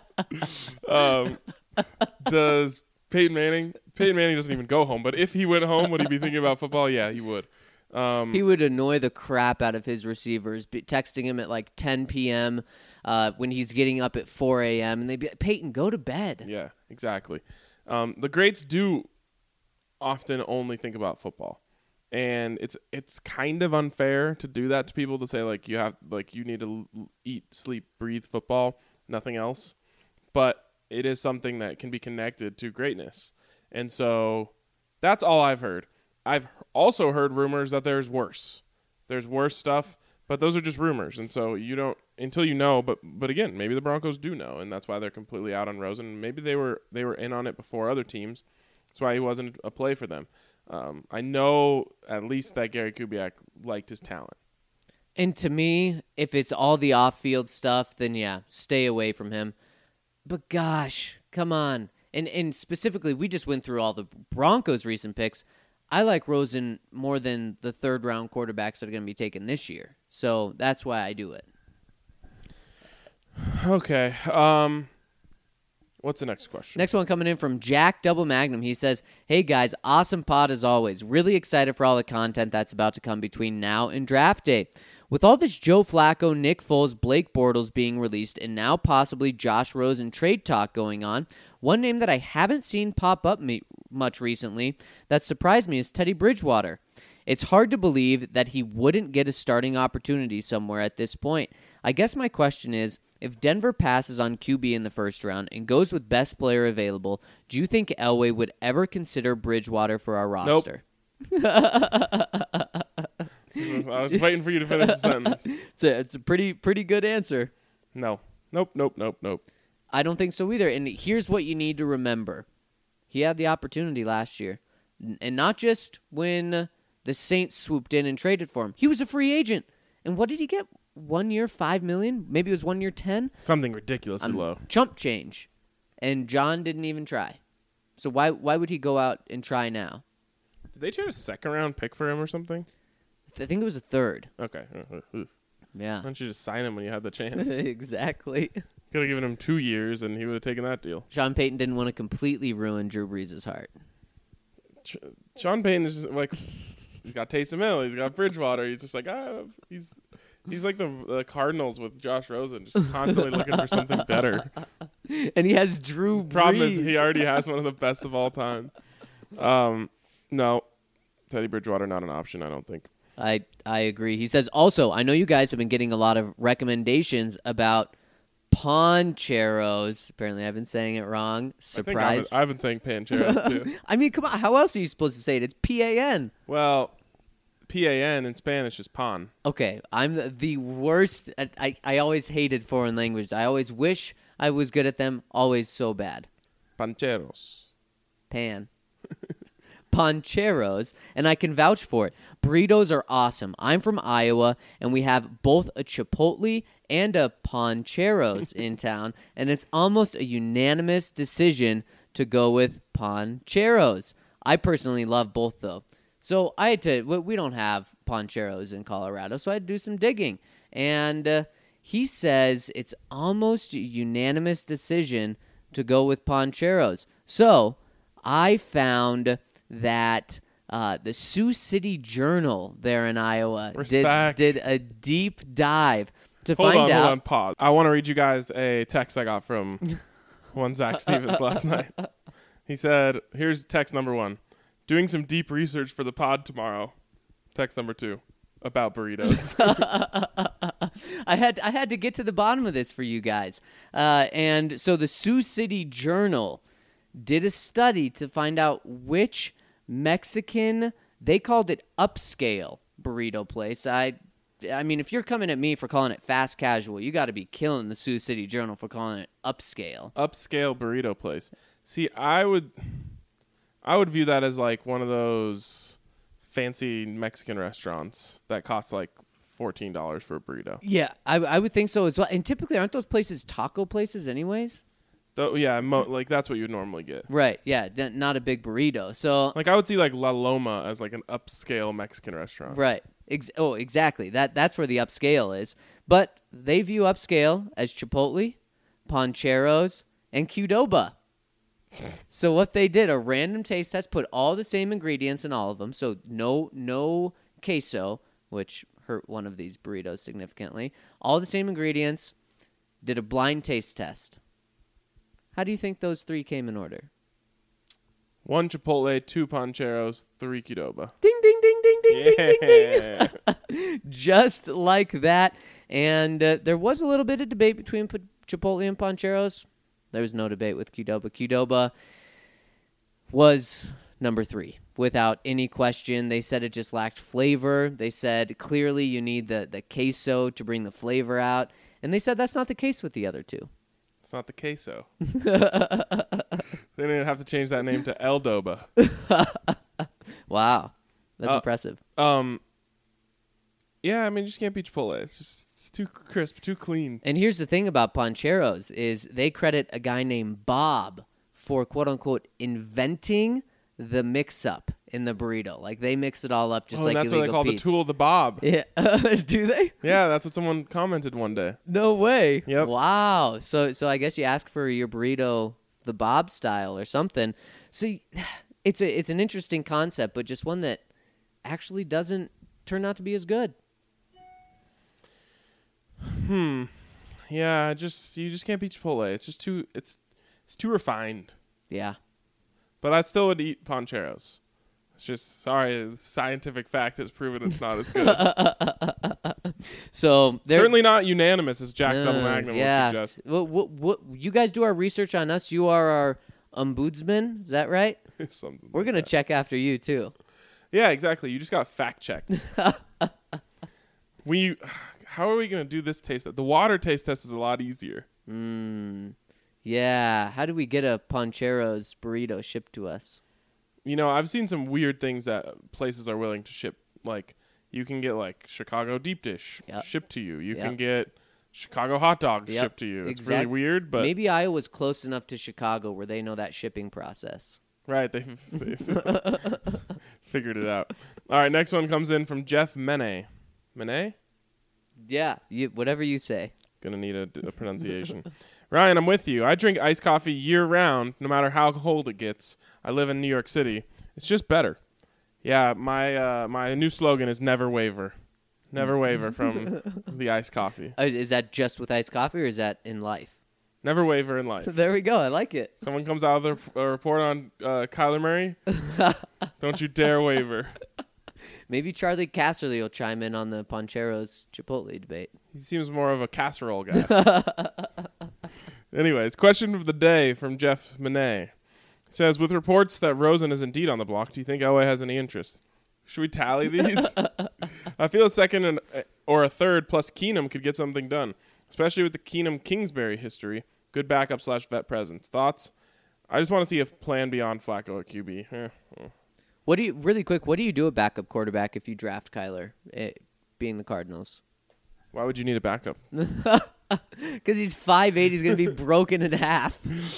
Does Peyton Manning? Peyton Manning doesn't even go home. But if he went home, would he be thinking about football? Yeah, he would. He would annoy the crap out of his receivers, texting him at like 10 p.m. When he's getting up at 4 a.m. And they'd be like, Peyton, go to bed. Yeah, exactly. The greats do often only think about football. And it's kind of unfair to do that to people, to say, like, you need to eat, sleep, breathe football, nothing else. But it is something that can be connected to greatness. And so that's all I've heard. I've also heard rumors that there's worse. There's worse stuff, but those are just rumors. And so you don't until you know. But again, maybe the Broncos do know, and that's why they're completely out on Rosen. Maybe they were in on it before other teams. That's why he wasn't a play for them. I know at least that Gary Kubiak liked his talent. And to me, if it's all the off-field stuff, then yeah, stay away from him. But gosh, come on. And specifically, we just went through all the Broncos' recent picks. I like Rosen more than the third-round quarterbacks that are going to be taken this year. So that's why I do it. Okay. What's the next question? Next one coming in from Jack Double Magnum. He says, hey, guys, awesome pod as always. Really excited for all the content that's about to come between now and draft day. With all this Joe Flacco, Nick Foles, Blake Bortles being released, and now possibly Josh Rosen trade talk going on, one name that I haven't seen pop up much recently that surprised me is Teddy Bridgewater. It's hard to believe that he wouldn't get a starting opportunity somewhere at this point. I guess my question is, if Denver passes on QB in the first round and goes with best player available, do you think Elway would ever consider Bridgewater for our roster? I was waiting for you to finish the sentence. It's a pretty good answer. No. Nope. I don't think so either. And here's what you need to remember. He had the opportunity last year. And not just when the Saints swooped in and traded for him. He was a free agent. And what did he get? 1 year, $5 million? Maybe it was 1 year, 10? Something ridiculously low. Chump change. And John didn't even try. So why would he go out and try now? Did they trade a second-round pick for him or something? I think it was a third. Okay. Yeah. Why don't you just sign him when you had the chance? Exactly. Could have given him 2 years, and he would have taken that deal. Sean Payton didn't want to completely ruin Drew Brees' heart. Sean Payton is just like, he's got Taysom Hill, he's got Bridgewater. He's just like, he's like the Cardinals with Josh Rosen, just constantly looking for something better. And he has Drew Brees. Problem is, he already has one of the best of all time. No, Teddy Bridgewater not an option, I don't think. I agree. He says, also, I know you guys have been getting a lot of recommendations about Poncheros. Apparently, I've been saying it wrong. Surprise. I've been saying Pancheros, too. I mean, come on. How else are you supposed to say it? It's P-A-N. Well, P-A-N in Spanish is pan. Okay. I'm the worst. I always hated foreign languages. I always wish I was good at them. Always so bad. Pancheros. Pan. Poncheros, and I can vouch for it. Burritos are awesome. I'm from Iowa, and we have both a Chipotle and a Poncheros in town, and it's almost a unanimous decision to go with Poncheros. I personally love both, though. So I had to, we don't have Poncheros in Colorado, so I had to do some digging. And he says it's almost a unanimous decision to go with Pancheros. So I found that the Sioux City Journal there in Iowa did a deep dive to find out. Hold on, pause. I want to read you guys a text I got from one Zach Stevens last night. He said, here's text number 1. Doing some deep research for the pod tomorrow. Text number 2. About burritos. I had to get to the bottom of this for you guys. And so the Sioux City Journal did a study to find out which Mexican, they called it upscale burrito place. I mean, if you're coming at me for calling it fast casual, you got to be killing the Sioux City Journal for calling it upscale. Upscale burrito place. See, I would view that as like one of those fancy Mexican restaurants that costs like $14 for a burrito. Yeah, I would think so as well. And typically, aren't those places taco places anyways? Though, yeah, like that's what you would normally get. Right, yeah, not a big burrito. So, like I would see like La Loma as like an upscale Mexican restaurant. Right. Exactly. That's where the upscale is. But they view upscale as Chipotle, Pancheros, and Qdoba. So what they did, a random taste test, put all the same ingredients in all of them. So no queso, which hurt one of these burritos significantly. All the same ingredients, did a blind taste test. How do you think those 3 came in order? 1 Chipotle, 2 Pancheros, 3 Qdoba. Ding, ding, ding, ding, ding, Yeah. ding, ding, ding. Just like that. And there was a little bit of debate between Chipotle and Pancheros. There was no debate with Qdoba. Qdoba was number 3 without any question. They said it just lacked flavor. They said clearly you need the queso to bring the flavor out. And they said that's not the case with the other 2. It's not the queso. They didn't have to change that name to El Doba. Wow. That's impressive. Yeah, I mean, you just can't beat Chipotle. It's too crisp, too clean. And here's the thing about Pancheros is they credit a guy named Bob for, quote-unquote, inventing the mix-up in the burrito. Like, they mix it all up just like that's what they call Pete's. the tool of the Bob. Yeah. Do they? Yeah, that's what someone commented one day. No way. Yep. Wow. So I guess you ask for your burrito the Bob style or something. So it's an interesting concept, but just one that actually doesn't turn out to be as good. Yeah, you just can't beat Chipotle. It's just too it's too refined. Yeah. But I still would eat Pancheros. It's just scientific fact has proven it's not as good. So certainly not unanimous as Jack Double Magnum would suggest. What you guys do our research on us. You are our ombudsman. Is that right? Something We're like gonna that. check after you too. Yeah, exactly. You just got fact checked. How are we gonna do this taste test? The water taste test is a lot easier. Yeah. How do we get a Pancheros burrito shipped to us? You know, I've seen some weird things that places are willing to ship. Like, you can get, like, Chicago deep dish shipped to you. You can get Chicago hot dogs shipped to you. It's really weird, but... Maybe Iowa's close enough to Chicago where they know that shipping process. Right, they've figured it out. All right, next one comes in from Jeff Mene. Mene? Yeah, whatever you say. Gonna need a pronunciation. Ryan, I'm with you. I drink iced coffee year-round, no matter how cold it gets. I live in New York City. It's just better. Yeah, my new slogan is never waver. Never waver from the iced coffee. Is that just with iced coffee or is that in life? Never waver in life. There we go. I like it. Someone comes out of the report on Kyler Murray. Don't you dare waver. Maybe Charlie Casserly will chime in on the Pancheros Chipotle debate. He seems more of a casserole guy. Anyways, question of the day from Jeff Mene. It says, with reports that Rosen is indeed on the block, do you think Elway has any interest? Should we tally these? I feel a second or a third plus Keenum could get something done, especially with the Keenum-Kingsbury history. Good backup / vet presence. Thoughts? I just want to see a plan beyond Flacco at QB. What do you do at backup quarterback if you draft Kyler, being the Cardinals? Why would you need a backup? Because he's 5'8", he's going to be broken in half.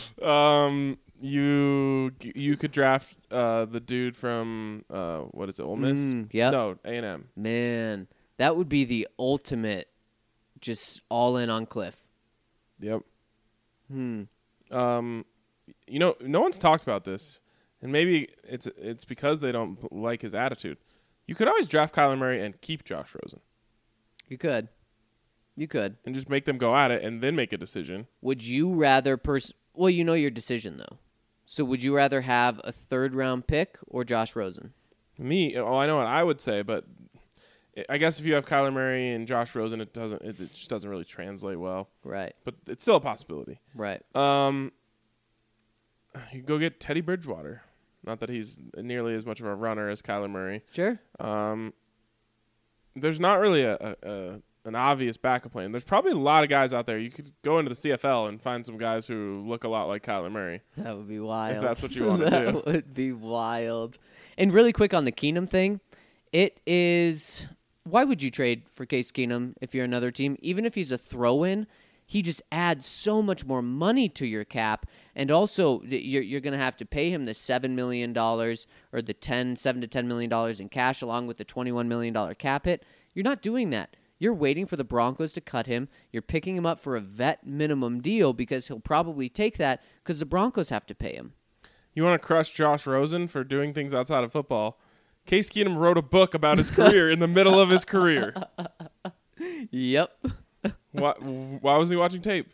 You could draft the dude from what is it, Ole Miss? Yeah. No, A&M. Man, that would be the ultimate, just all in on Cliff. Yep. No one's talked about this, and maybe it's because they don't like his attitude. You could always draft Kyler Murray and keep Josh Rosen. You could. And just make them go at it and then make a decision. Would you rather well, you know your decision, though. So would you rather have a third-round pick or Josh Rosen? I know what I would say, but I guess if you have Kyler Murray and Josh Rosen, it just doesn't really translate well. Right. But it's still a possibility. Right. You go get Teddy Bridgewater. Not that he's nearly as much of a runner as Kyler Murray. Sure. There's not really an obvious backup plan. There's probably a lot of guys out there. You could go into the CFL and find some guys who look a lot like Kyler Murray. That would be wild. If that's what you want to do. That would be wild. And really quick on the Keenum thing, it is... Why would you trade for Case Keenum if you're another team? Even if he's a throw-in, he just adds so much more money to your cap. And also, you're going to have to pay him the $7 million or the $7 to $10 million in cash along with the $21 million cap hit. You're not doing that. You're waiting for the Broncos to cut him. You're picking him up for a vet minimum deal because he'll probably take that because the Broncos have to pay him. You want to crush Josh Rosen for doing things outside of football? Case Keenum wrote a book about his career in the middle of his career. Yep. Why wasn't he watching tape?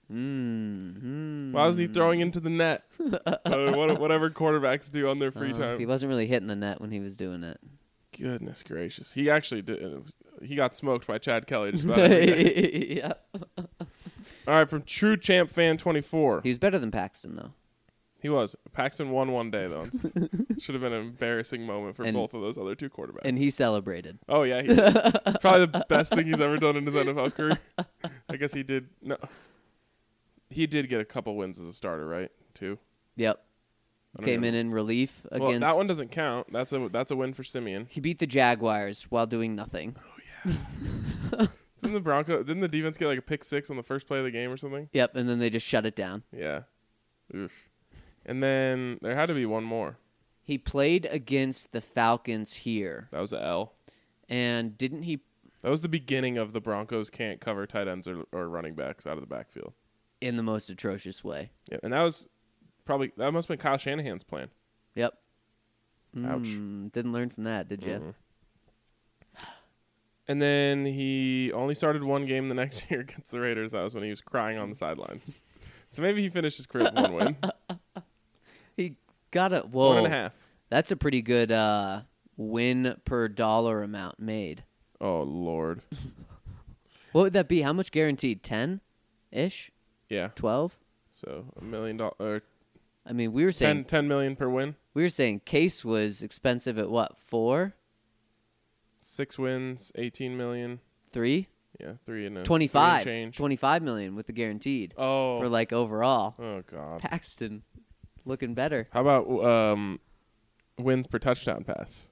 Why wasn't he throwing into the net? Whatever quarterbacks do on their free time. He wasn't really hitting the net when he was doing it. Goodness gracious. He actually did. He got smoked by Chad Kelly just about every day. Yeah. All right, from True Champ Fan 24. He was better than Paxton, though. He was. Paxton won one day, though. Should have been an embarrassing moment for both of those other two quarterbacks. And he celebrated. Oh, yeah. He did. It's probably the best thing he's ever done in his NFL career. I guess he did. No, he did get a couple wins as a starter, right? Too. Yep. Came in relief against. Well, that one doesn't count. That's a win for Simeon. He beat the Jaguars while doing nothing. Oh yeah. Didn't the defense get like a pick six on the first play of the game or something? Yep, and then they just shut it down. Yeah. Oof. And then there had to be one more. He played against the Falcons here. That was an L. And didn't he? That was the beginning of the Broncos can't cover tight ends or running backs out of the backfield. In the most atrocious way. Yeah, and that must have been Kyle Shanahan's plan. Yep. Ouch. Didn't learn from that, did you? Mm-hmm. And then he only started one game the next year against the Raiders. That was when he was crying on the sidelines. So maybe he finished his career with one win. He got a... Whoa. 1.5. That's a pretty good win per dollar amount made. Oh, Lord. What would that be? How much guaranteed? 10-ish? Yeah. 12? So $1 million. I mean, we were saying... $10 million per win. We were saying Case was expensive at what, 4? 6 wins, $18 million. 3? Yeah, 3 and a 25. 3 and change. $25 million with the guaranteed. Oh. For like overall. Oh, God. Paxton looking better. How about wins per touchdown pass?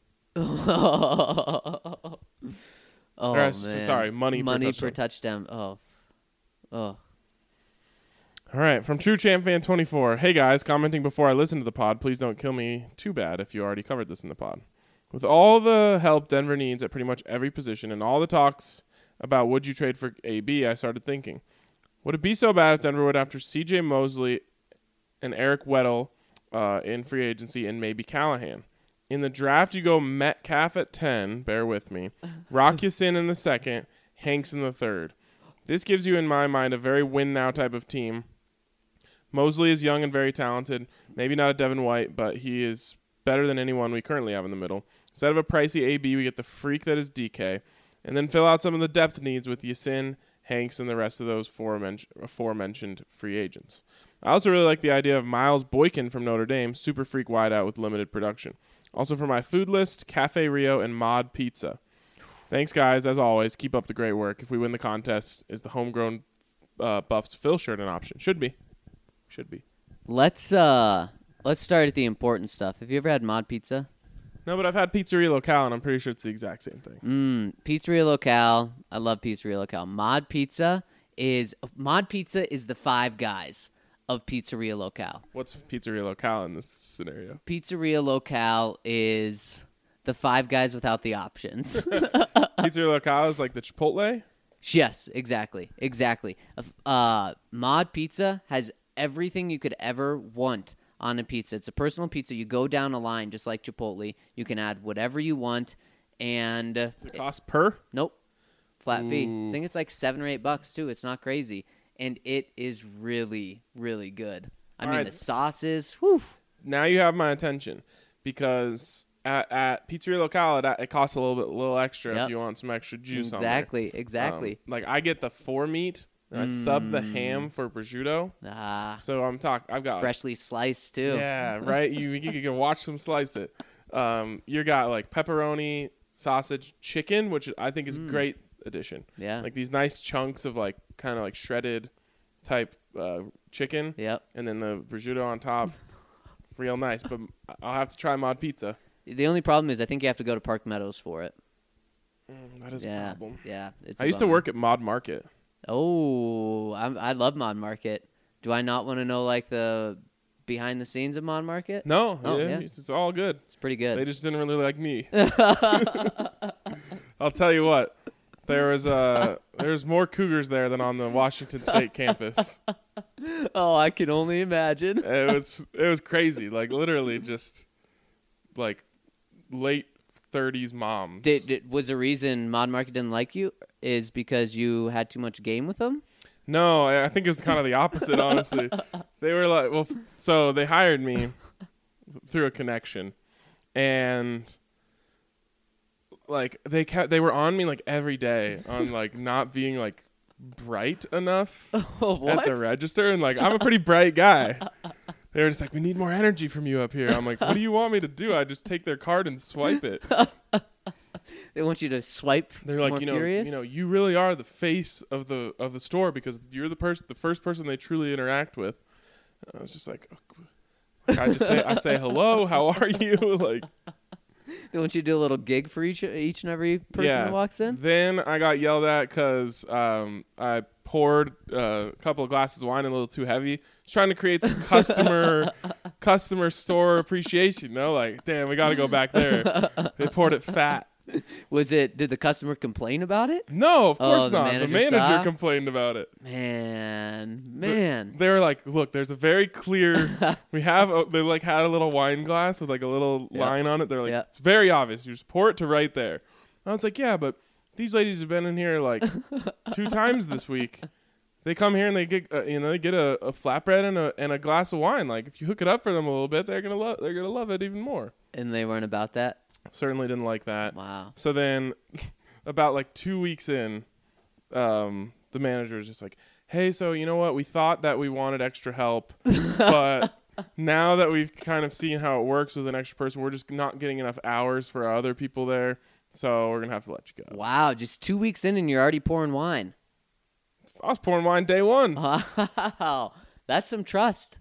Oh, man. Sorry, money per touchdown. Oh. All right, from True Champ Fan 24. Hey, guys, commenting before I listen to the pod. Please don't kill me too bad if you already covered this in the pod. With all the help Denver needs at pretty much every position and all the talks about would you trade for AB, I started thinking, would it be so bad if Denver would after C.J. Mosley and Eric Weddle in free agency and maybe Callahan? In the draft, you go Metcalf at 10, bear with me, Rock Ya-Sin in the second, Hanks in the third. This gives you, in my mind, a very win-now type of team. Mosley is young and very talented. Maybe not a Devin White, but he is better than anyone we currently have in the middle. Instead of a pricey AB, we get the freak that is DK, and then fill out some of the depth needs with Ya-Sin, Hanks, and the rest of those aforementioned free agents. I also really like the idea of Miles Boykin from Notre Dame, super freak wideout with limited production. Also for my food list, Cafe Rio and Mod Pizza. Thanks, guys. As always, keep up the great work. If we win the contest, is the homegrown Buffs Phil shirt an option? Should be. Let's start at the important stuff. Have you ever had Mod Pizza? No, but I've had Pizzeria Locale, and I'm pretty sure it's the exact same thing. Pizzeria Locale. I love Pizzeria Locale. Mod Pizza is the Five Guys of Pizzeria Locale. What's Pizzeria Locale in this scenario? Pizzeria Locale is the Five Guys without the options. Pizzeria Locale is like the Chipotle? Yes, exactly. Mod Pizza has everything you could ever want on a pizza. It's a personal pizza. You go down a line just like Chipotle. You can add whatever you want, and Does it cost per? nope, flat fee. Ooh. I think it's like $7 or $8 too. It's not crazy, and it is really, really good. I All mean, right. the sauces. Whew. Now you have my attention, because at Pizzeria Locale it costs a little extra Yep. if you want some extra juice Exactly, on there. exactly. Like I get the 4 meat, and I sub the ham for prosciutto. So I've got Freshly sliced too. yeah, right. You can watch them slice it. You got like pepperoni, sausage, chicken, which I think is a great addition. Yeah. Like these nice chunks of like kind of like shredded type chicken. Yep. And then the prosciutto on top, real nice. But I'll have to try Mod Pizza. The only problem is I think you have to go to Park Meadows for it. That is a Yeah. problem. Yeah. It's I a used to bummer. work at Mod Market. Oh, I love Mod Market. Do I not want to know like the behind the scenes of Mod Market? No, Oh, yeah, yeah. it's all good. It's pretty good. They just didn't really like me. I'll tell you what. There's more Cougars there than on the Washington State campus. Oh, I can only imagine. It was crazy. Like literally just like late 30s moms. Was the reason Mod Market didn't like you is because you had too much game with them? No, I think it was kind of the opposite, honestly. They were like, well, so they hired me through a connection, and like they were on me like every day on like not being like bright enough Oh, what? at the register, and like I'm a pretty bright guy. They were just like, we need more energy from you up here. I'm like, what do you want me to do? I just take their card and swipe it. They want you to swipe. They're like, more you furious? know, you really are the face of the store because you're the first person they truly interact with. And I was just like, I say hello, how are you? Like, They want you to do a little gig for each and every person that walks in. Then I got yelled at because I poured a couple of glasses of wine a little too heavy. Just trying to create some customer store appreciation. No, like, damn, we got to go back there. They poured it fat. Did the customer complain about it? No, of course the not. The manager manager saw? complained about it. Man. They were like, look, there's a very clear. They like had a little wine glass with like a little line on it. They're like, Yep. it's very obvious. You just pour it to right there. I was like, yeah, but these ladies have been in here like 2 times this week. They come here and they get they get a flatbread and a glass of wine. Like if you hook it up for them a little bit, they're gonna love it even more. And they weren't about that? Certainly didn't like that. Wow. So then, about like 2 weeks in, the manager was just like, hey, so you know what? We thought that we wanted extra help, but now that we've kind of seen how it works with an extra person, we're just not getting enough hours for other people there, so we're going to have to let you go. Wow, just 2 weeks in and you're already pouring wine. I was pouring wine day one. Wow. That's some trust.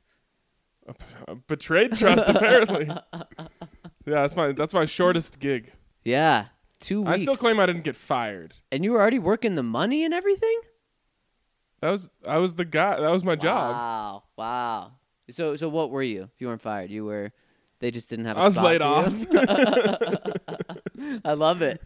Betrayed trust, apparently. Yeah, that's my shortest gig. Yeah. 2 weeks. I still claim I didn't get fired. And you were already working the money and everything? I was the guy. That was my job. Wow. So what were you if you weren't fired? They just didn't have a I was spot laid for off. you? I love it.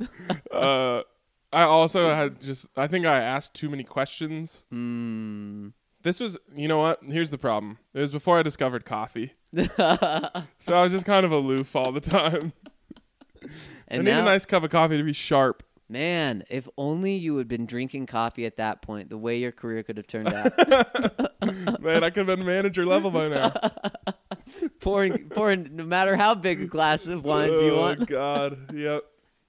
I also I think I asked too many questions. This was, you know what? Here's the problem. It was before I discovered coffee. So I was just kind of aloof all the time. And I need now, a nice cup of coffee to be sharp. man, if only you had been drinking coffee at that point, the way your career could have turned out. Man, I could have been manager level by now. pouring no matter how big a glass of wines you want. Oh, God. Yep.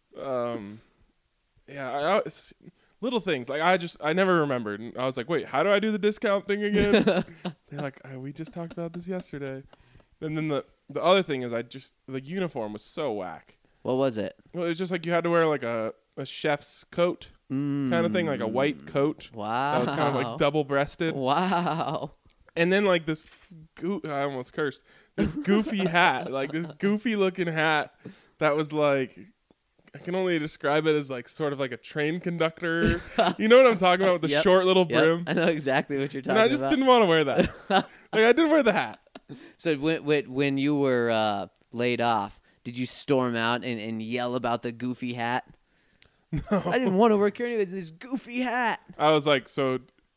Yeah, little things. Like, I never remembered. And I was like, wait, how do I do the discount thing again? They're like, we just talked about this yesterday. And then the other thing is the uniform was so whack. What was it? Well, it was just like you had to wear like a chef's coat kind of thing, like a white coat. Wow. That was kind of like double-breasted. Wow. And then like this, I almost cursed, this goofy hat, like this goofy looking hat that was like, I can only describe it as like sort of like a train conductor. You know what I'm talking about with the Yep. short little brim? I know exactly what you're talking And about. I just didn't want to wear that. Like I did wear the hat. So when you were laid off, did you storm out and yell about the goofy hat? No. I didn't want to work here anyway. This goofy hat. I was like, so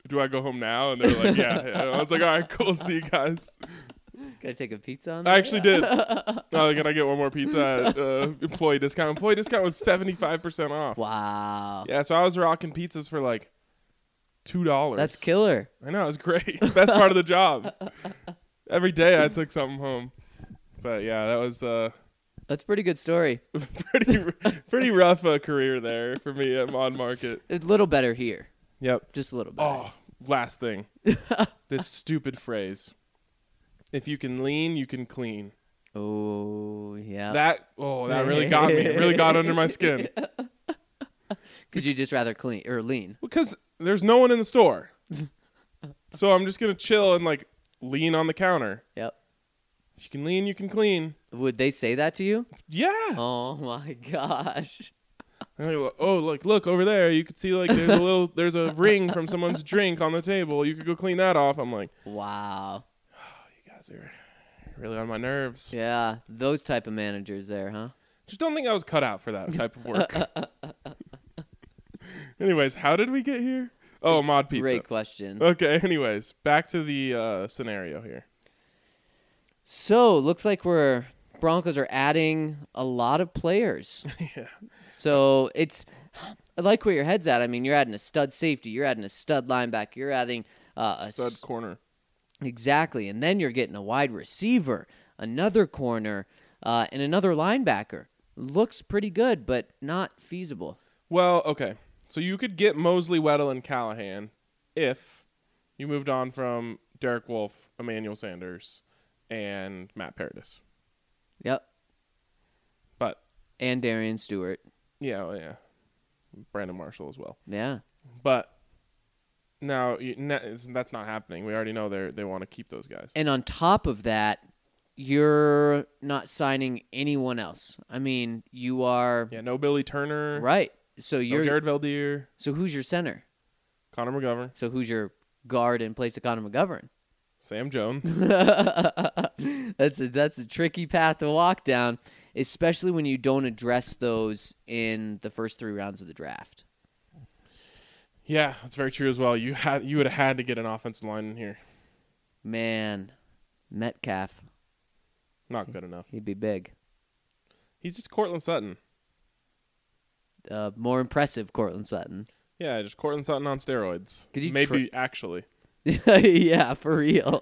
do I go home now? And they're like, yeah. And I was like, all right, cool. See you guys. Can I take a pizza on I that? actually did. Can I get one more pizza at employee discount? Employee discount was 75% off. Wow. Yeah, so I was rocking pizzas for like $2. That's killer. I know, it was great. Best part of the job. Every day I took something home. But yeah, that was That's a pretty good story. pretty rough career there for me at Mod Market. A little better here. Yep. Just a little better. Oh, last thing. This stupid phrase. If you can lean, you can clean. Oh, yeah. That really got me. It really got under my skin. Because you just rather clean or lean. Because there's no one in the store. So I'm just going to chill and like lean on the counter. Yep. If you can lean, you can clean. Would they say that to you? Yeah. Oh my gosh. And they go, look over there. You could see like there's a ring from someone's drink on the table. You could go clean that off. I'm like, Wow. you guys are really on my nerves. Yeah, those type of managers there, huh? Just don't think I was cut out for that type of work. Anyways, how did we get here? Oh, Mod Pizza. Great question. Okay, anyways, back to the scenario here. So, looks like Broncos are adding a lot of players. Yeah. So, I like where your head's at. I mean, you're adding a stud safety, you're adding a stud linebacker, you're adding a Stud corner. Exactly. And then you're getting a wide receiver, another corner, and another linebacker. Looks pretty good, but not feasible. Well, okay. So you could get Mosley, Weddle, and Callahan if you moved on from Derek Wolfe, Emmanuel Sanders, and Matt Paradis. Yep. But And Darian Stewart. yeah. Brandon Marshall as well. Yeah. But now that's not happening. We already know they want to keep those guys. And on top of that, you're not signing anyone else. I mean, you are Yeah, no Billy Turner. right. So No you're Jared Valdir. So who's your center? Connor McGovern. So who's your guard in place of Connor McGovern? Sam Jones. That's a tricky path to walk down, especially when you don't address those in the first 3 rounds of the draft. Yeah, that's very true as well. You would have had to get an offensive line in here. Man, Metcalf, Not good enough. he'd be big. He's just Cortland Sutton. More impressive, Cortland Sutton. Yeah, just Cortland Sutton on steroids. Could you Maybe actually. Yeah, for real.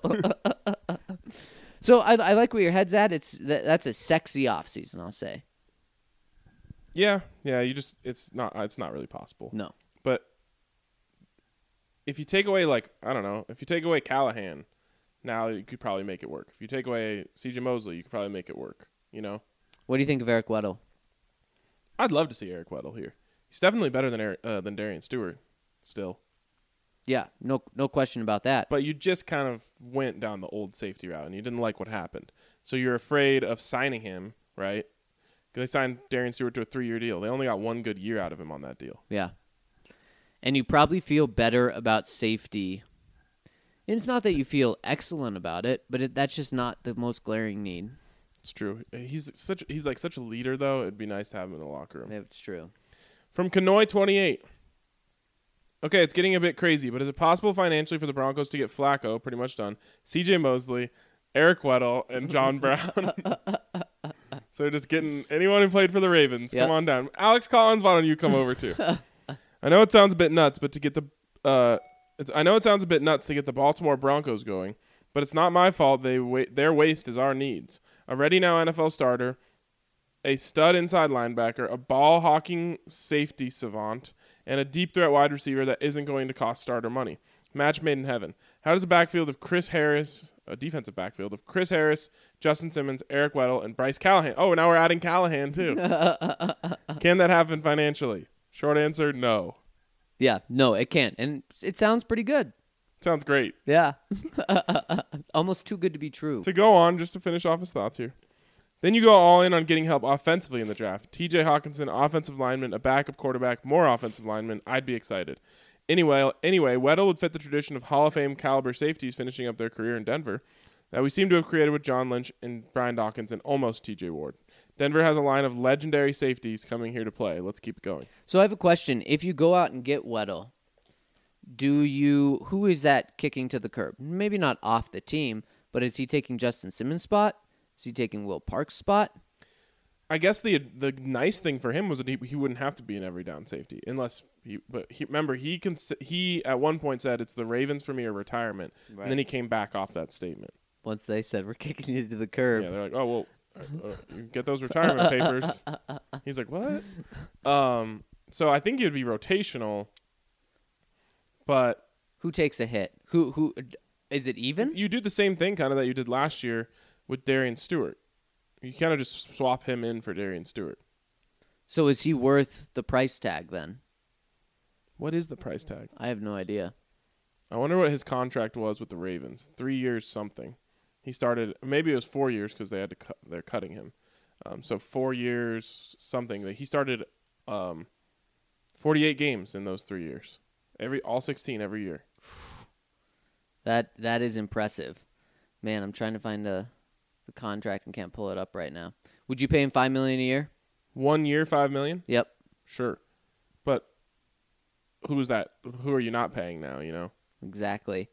So I like where your head's at. That's a sexy offseason, I'll say. Yeah. It's not really possible. No. But if you take away if you take away Callahan, now you could probably make it work. If you take away CJ Mosley, you could probably make it work. You know. What do you think of Eric Weddle? I'd love to see Eric Weddle here. He's definitely better than Darian Stewart, still. Yeah, no question about that. But you just kind of went down the old safety route, and you didn't like what happened. So you're afraid of signing him, right? Because they signed Darian Stewart to a 3-year deal. They only got 1 good year out of him on that deal. Yeah. And you probably feel better about safety. And it's not that you feel excellent about it, but that's just not the most glaring need. It's true. He's like such a leader, though. It'd be nice to have him in the locker room. It's true. From Kanoy28. Okay, it's getting a bit crazy, but is it possible financially for the Broncos to get Flacco, pretty much done, CJ Mosley, Eric Weddle, and John Brown? So just getting anyone who played for the Ravens. Yep. Come on down. Alex Collins, why don't you come over too? I know it sounds a bit nuts, but to get the Baltimore Broncos going, but it's not my fault. Their waste is our needs. A ready now NFL starter, a stud inside linebacker, a ball hawking safety savant, and a deep threat wide receiver that isn't going to cost starter money. Match made in heaven. How does a defensive backfield of Chris Harris, Justin Simmons, Eric Weddle, and Bryce Callahan? Oh, now we're adding Callahan too. Can that happen financially? Short answer, no. Yeah, no, it can't. And it sounds pretty good. Sounds great. Yeah. Almost too good to be true. To go on, just to finish off his thoughts here. Then you go all in on getting help offensively in the draft. TJ Hawkinson, offensive lineman, a backup quarterback, more offensive lineman. I'd be excited. Anyway, Weddle would fit the tradition of Hall of Fame caliber safeties finishing up their career in Denver that we seem to have created with John Lynch and Brian Dawkins and almost TJ Ward. Denver has a line of legendary safeties coming here to play. Let's keep it going. So I have a question. If you go out and get Weddle, Who is that kicking to the curb? Maybe not off the team, but is he taking Justin Simmons' spot? Is he taking Will Park's spot? I guess the nice thing for him was that he wouldn't have to be an every down safety unless remember he at one point said it's the Ravens for me or retirement, Right. and then he came back off that statement. Once they said we're kicking you to the curb. Yeah, they're like, oh well, you get those retirement papers. He's like, what? So I think it would be rotational, but Who takes a hit? Who is it even? you do the same thing kind of that you did last year with Darian Stewart. You kind of just swap him in for Darian Stewart. So is he worth the price tag then? What is the price tag? I have no idea. I wonder what his contract was with the Ravens. 3 years something. He started, maybe it was 4 years because they had to they're cutting him. So 4 years something. He started 48 games in those 3 years. All 16 every year. That is impressive. Man, I'm trying to find the contract and can't pull it up right now. Would you pay him $5 million a year? 1 year, $5 million? Yep. Sure. But who is that? Who are you not paying now, you know? Exactly.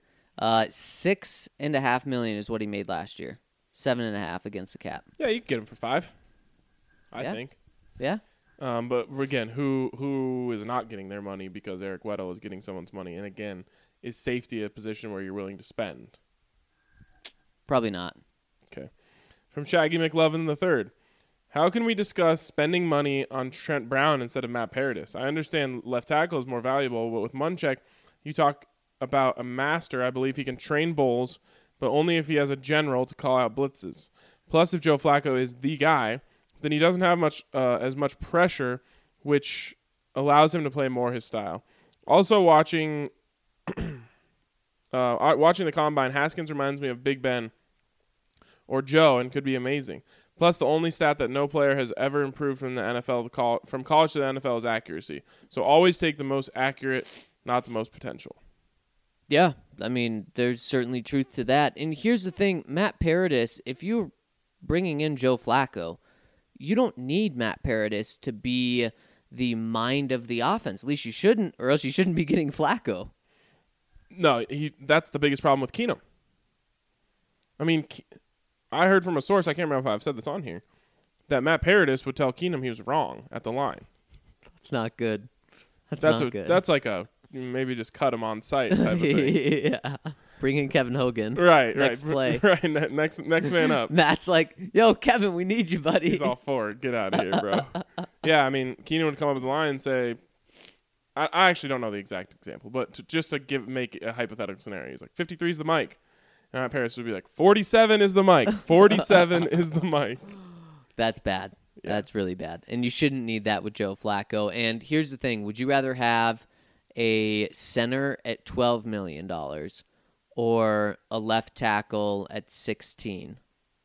$6.5 million is what he made last year. 7.5 against the cap. Yeah, you can get him for 5. I Yeah. think. Yeah. But again, who is not getting their money because Eric Weddle is getting someone's money? And again, is safety a position where you're willing to spend? Probably not. Okay. From Shaggy McLovin III. How can we discuss spending money on Trent Brown instead of Matt Paradis? I understand left tackle is more valuable, but with Munchak, you talk about a master. I believe he can train bowls, but only if he has a general to call out blitzes. Plus, if Joe Flacco is the guy, then he doesn't have as much pressure, which allows him to play more his style. Also, watching the Combine, Haskins reminds me of Big Ben or Joe and could be amazing. Plus, the only stat that no player has ever improved from the NFL from college to the NFL is accuracy. So always take the most accurate, not the most potential. Yeah. I mean, there's certainly truth to that. And here's the thing, Matt Paradis, if you're bringing in Joe Flacco, you don't need Matt Paradis to be the mind of the offense. At least you shouldn't, or else you shouldn't be getting Flacco. No, that's the biggest problem with Keenum. I mean, I heard from a source, I can't remember if I've said this on here, that Matt Paradis would tell Keenum he was wrong at the line. That's not good. That's not good. That's like a maybe just cut him on sight type of thing. Yeah. Bring in Kevin Hogan. Right, Next play. Right, next man up. Matt's like, yo, Kevin, we need you, buddy. He's all for it. Get out of here, bro. Yeah, I mean, Keenan would come up with the line and say, I actually don't know the exact example, but just to make a hypothetical scenario, he's like, 53 is the mic. And Matt Paradis would be like, 47 is the mic. 47 is the mic. That's bad. Yeah. That's really bad. And you shouldn't need that with Joe Flacco. And here's the thing. Would you rather have a center at $12 million or a left tackle at 16?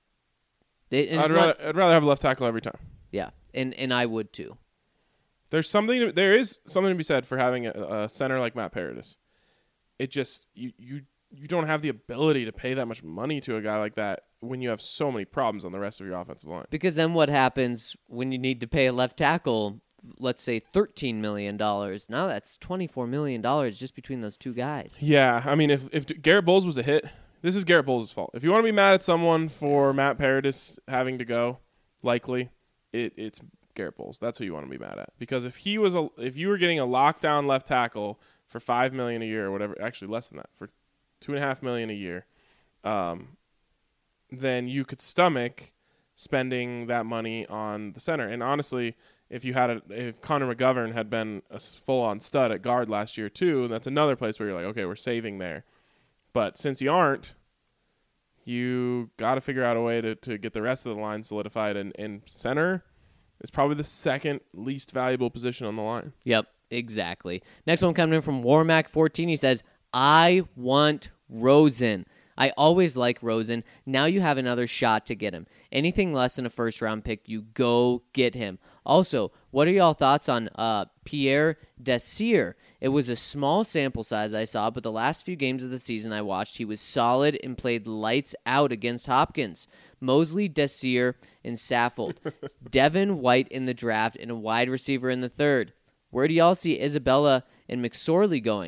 I'd rather have a left tackle every time. Yeah, and I would too. There is something to be said for having a center like Matt Paradis. It just you don't have the ability to pay that much money to a guy like that when you have so many problems on the rest of your offensive line. Because then what happens when you need to pay a left tackle, let's say $13 million? Now that's $24 million just between those two guys. Yeah, I mean, if Garrett Bowles was a hit, this is Garrett Bowles' fault. If you want to be mad at someone for Matt Paradis having to go, likely, it's Garrett Bowles. That's who you want to be mad at. Because if you were getting a lockdown left tackle for $5 million a year or whatever, actually less than that, for $2.5 million a year, then you could stomach spending that money on the center. And honestly, if Connor McGovern had been a full-on stud at guard last year too, that's another place where you're like, okay, we're saving there. But since you aren't, you got to figure out a way to get the rest of the line solidified. And center is probably the second least valuable position on the line. Yep, exactly. Next one coming in from Warmack14. He says, I want Rosen. I always like Rosen. Now you have another shot to get him. Anything less than a first-round pick, you go get him. Also, what are y'all thoughts on Pierre Desir? It was a small sample size I saw, but the last few games of the season I watched, he was solid and played lights out against Hopkins. Mosley, Desir, and Saffold. Devin White in the draft and a wide receiver in the third. Where do y'all see Isabella and McSorley going?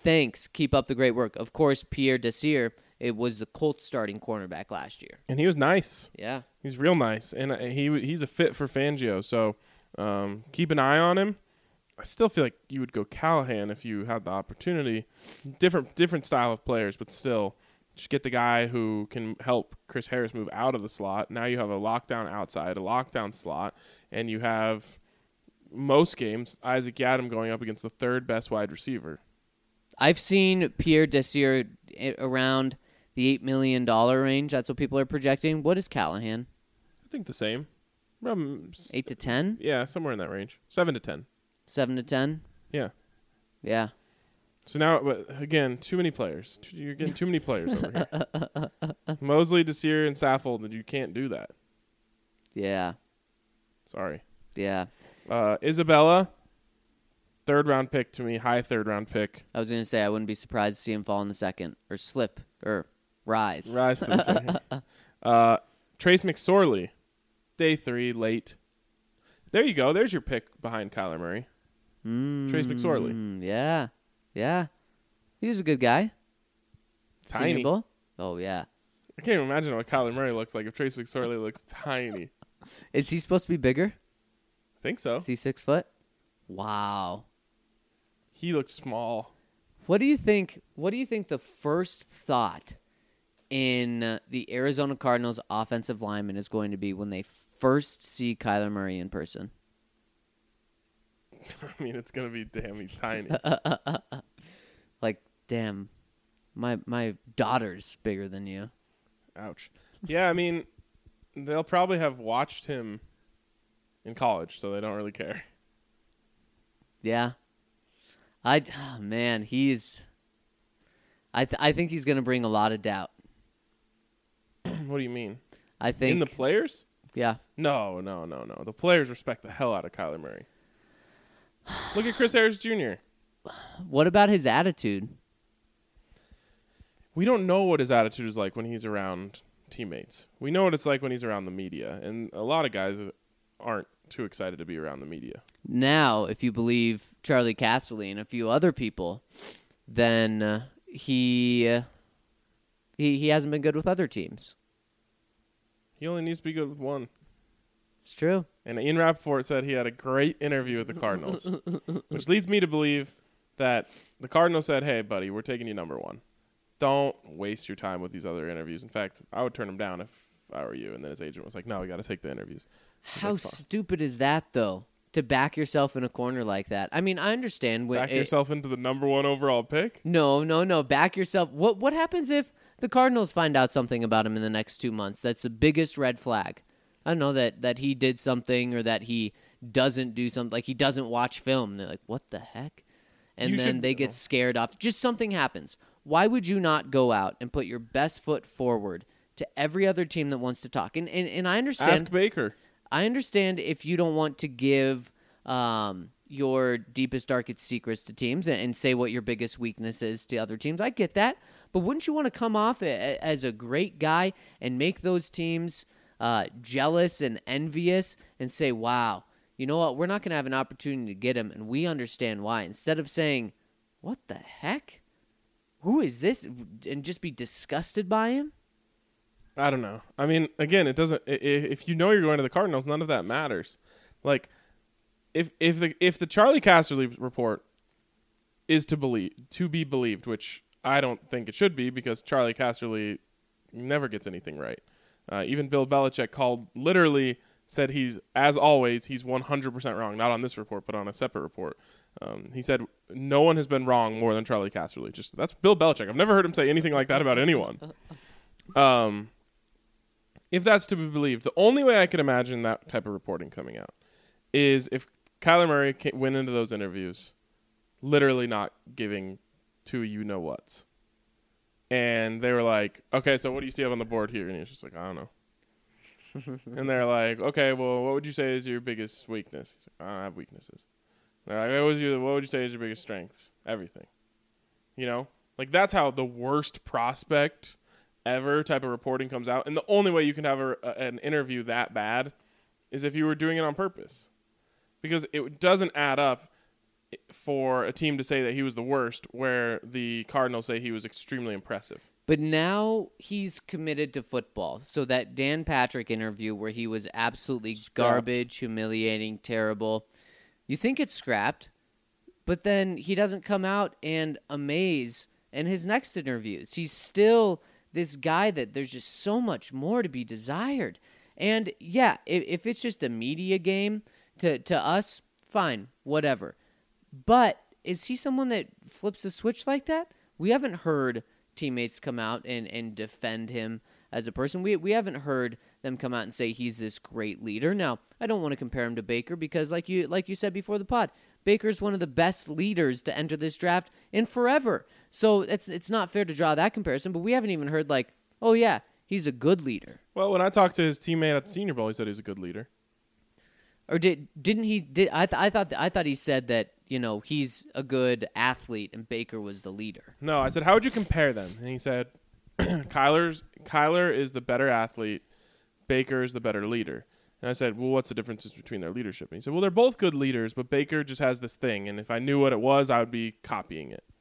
Thanks. Keep up the great work. Of course, Pierre Desir, it was the Colts starting cornerback last year. And he was nice. Yeah. He's real nice. And he's a fit for Fangio. So keep an eye on him. I still feel like you would go Callahan if you had the opportunity. Different style of players, but still. Just get the guy who can help Chris Harris move out of the slot. Now you have a lockdown outside, a lockdown slot, and you have most games Isaac Yiadom going up against the third best wide receiver. I've seen Pierre Desir around the $8 million range. That's what people are projecting. What is Callahan? I think the same. 8 to 10? Yeah, somewhere in that range. 7 to 10. 7 to 10? Yeah. Yeah. So now, but again, too many players. You're getting too many players over here. Mosley, Desir, and Saffold, you can't do that. Yeah. Sorry. Yeah. Isabella, third-round pick to me, high third-round pick. I was going to say I wouldn't be surprised to see him fall in the second or slip or rise. Rise to the second. Trace McSorley, day 3, late. There you go. There's your pick behind Kyler Murray. Trace McSorley. Yeah. Yeah. He was a good guy. Tiny. Senior Bowl? Oh, yeah. I can't even imagine what Kyler Murray looks like if Trace McSorley looks tiny. Is he supposed to be bigger? I think so. Is he 6 foot? Wow. He looks small. What do you think the first thought in the Arizona Cardinals offensive lineman is going to be when they first see Kyler Murray in person? I mean, it's going to be, damn, he's tiny. Like, damn, my daughter's bigger than you. Ouch. Yeah, I mean, they'll probably have watched him in college, so they don't really care. Yeah. Man, he's... I think he's going to bring a lot of doubt. What do you mean? I think... In the players? Yeah. No. The players respect the hell out of Kyler Murray. Look at Chris Harris Jr. What about his attitude? We don't know what his attitude is like when he's around teammates. We know what it's like when he's around the media, and a lot of guys aren't too excited to be around the media. Now, if you believe Charlie Casserly and a few other people, then he hasn't been good with other teams. He only needs to be good with one. It's true. And Ian Rappaport said he had a great interview with the Cardinals, which leads me to believe that the Cardinals said, hey, buddy, we're taking you number 1. Don't waste your time with these other interviews. In fact, I would turn them down if I were you. And then his agent was like, no, we got to take the interviews. How stupid is that, though, to back yourself in a corner like that? I mean, I understand. Back yourself into the number 1 overall pick? No. Back yourself. What happens if the Cardinals find out something about him in the next 2 months? That's the biggest red flag. I don't know that he did something or that he doesn't do something, like he doesn't watch film. They're like, what the heck? And then they get scared off. Just something happens. Why would you not go out and put your best foot forward to every other team that wants to talk? And I understand. Ask Baker. I understand if you don't want to give your deepest, darkest secrets to teams and say what your biggest weakness is to other teams. I get that. But wouldn't you want to come off as a great guy and make those teams jealous and envious and say, wow, you know what? We're not going to have an opportunity to get him, and we understand why. Instead of saying, what the heck? Who is this? And just be disgusted by him? I don't know. I mean, again, it doesn't. If you know you're going to the Cardinals, none of that matters. Like, if the Charlie Casserly report is to be believed, which I don't think it should be, because Charlie Casserly never gets anything right. Even Bill Belichick literally said he's 100% wrong. Not on this report, but on a separate report. He said no one has been wrong more than Charlie Casserly. That's Bill Belichick. I've never heard him say anything like that about anyone. If that's to be believed, the only way I could imagine that type of reporting coming out is if Kyler Murray went into those interviews literally not giving two you-know-whats. And they were like, okay, so what do you see up on the board here? And he was just like, I don't know. And they're like, okay, well, what would you say is your biggest weakness? He's like, I don't have weaknesses. They're like, what would you say is your biggest strengths? Everything. You know? Like, that's how the worst prospect ever type of reporting comes out. And the only way you can have an interview that bad is if you were doing it on purpose. Because it doesn't add up for a team to say that he was the worst, where the Cardinals say he was extremely impressive. But now he's committed to football. So that Dan Patrick interview where he was absolutely garbage, humiliating, terrible, you think it's scrapped, but then he doesn't come out and amaze in his next interviews. He's still this guy that there's just so much more to be desired. And yeah, if it's just a media game to us, fine, whatever. But is he someone that flips a switch like that? We haven't heard teammates come out and defend him as a person. We haven't heard them come out and say he's this great leader. Now, I don't want to compare him to Baker because like you said before the pod, Baker's one of the best leaders to enter this draft in forever. So it's not fair to draw that comparison, but we haven't even heard like, oh yeah, he's a good leader. Well, when I talked to his teammate at the Senior Bowl, he said he was a good leader. Or didn't he? I thought he said that he's a good athlete and Baker was the leader. No, I said, how would you compare them? And he said, Kyler is the better athlete, Baker is the better leader. And I said, well, what's the difference between their leadership? And he said, well, they're both good leaders, but Baker just has this thing, and if I knew what it was, I would be copying it.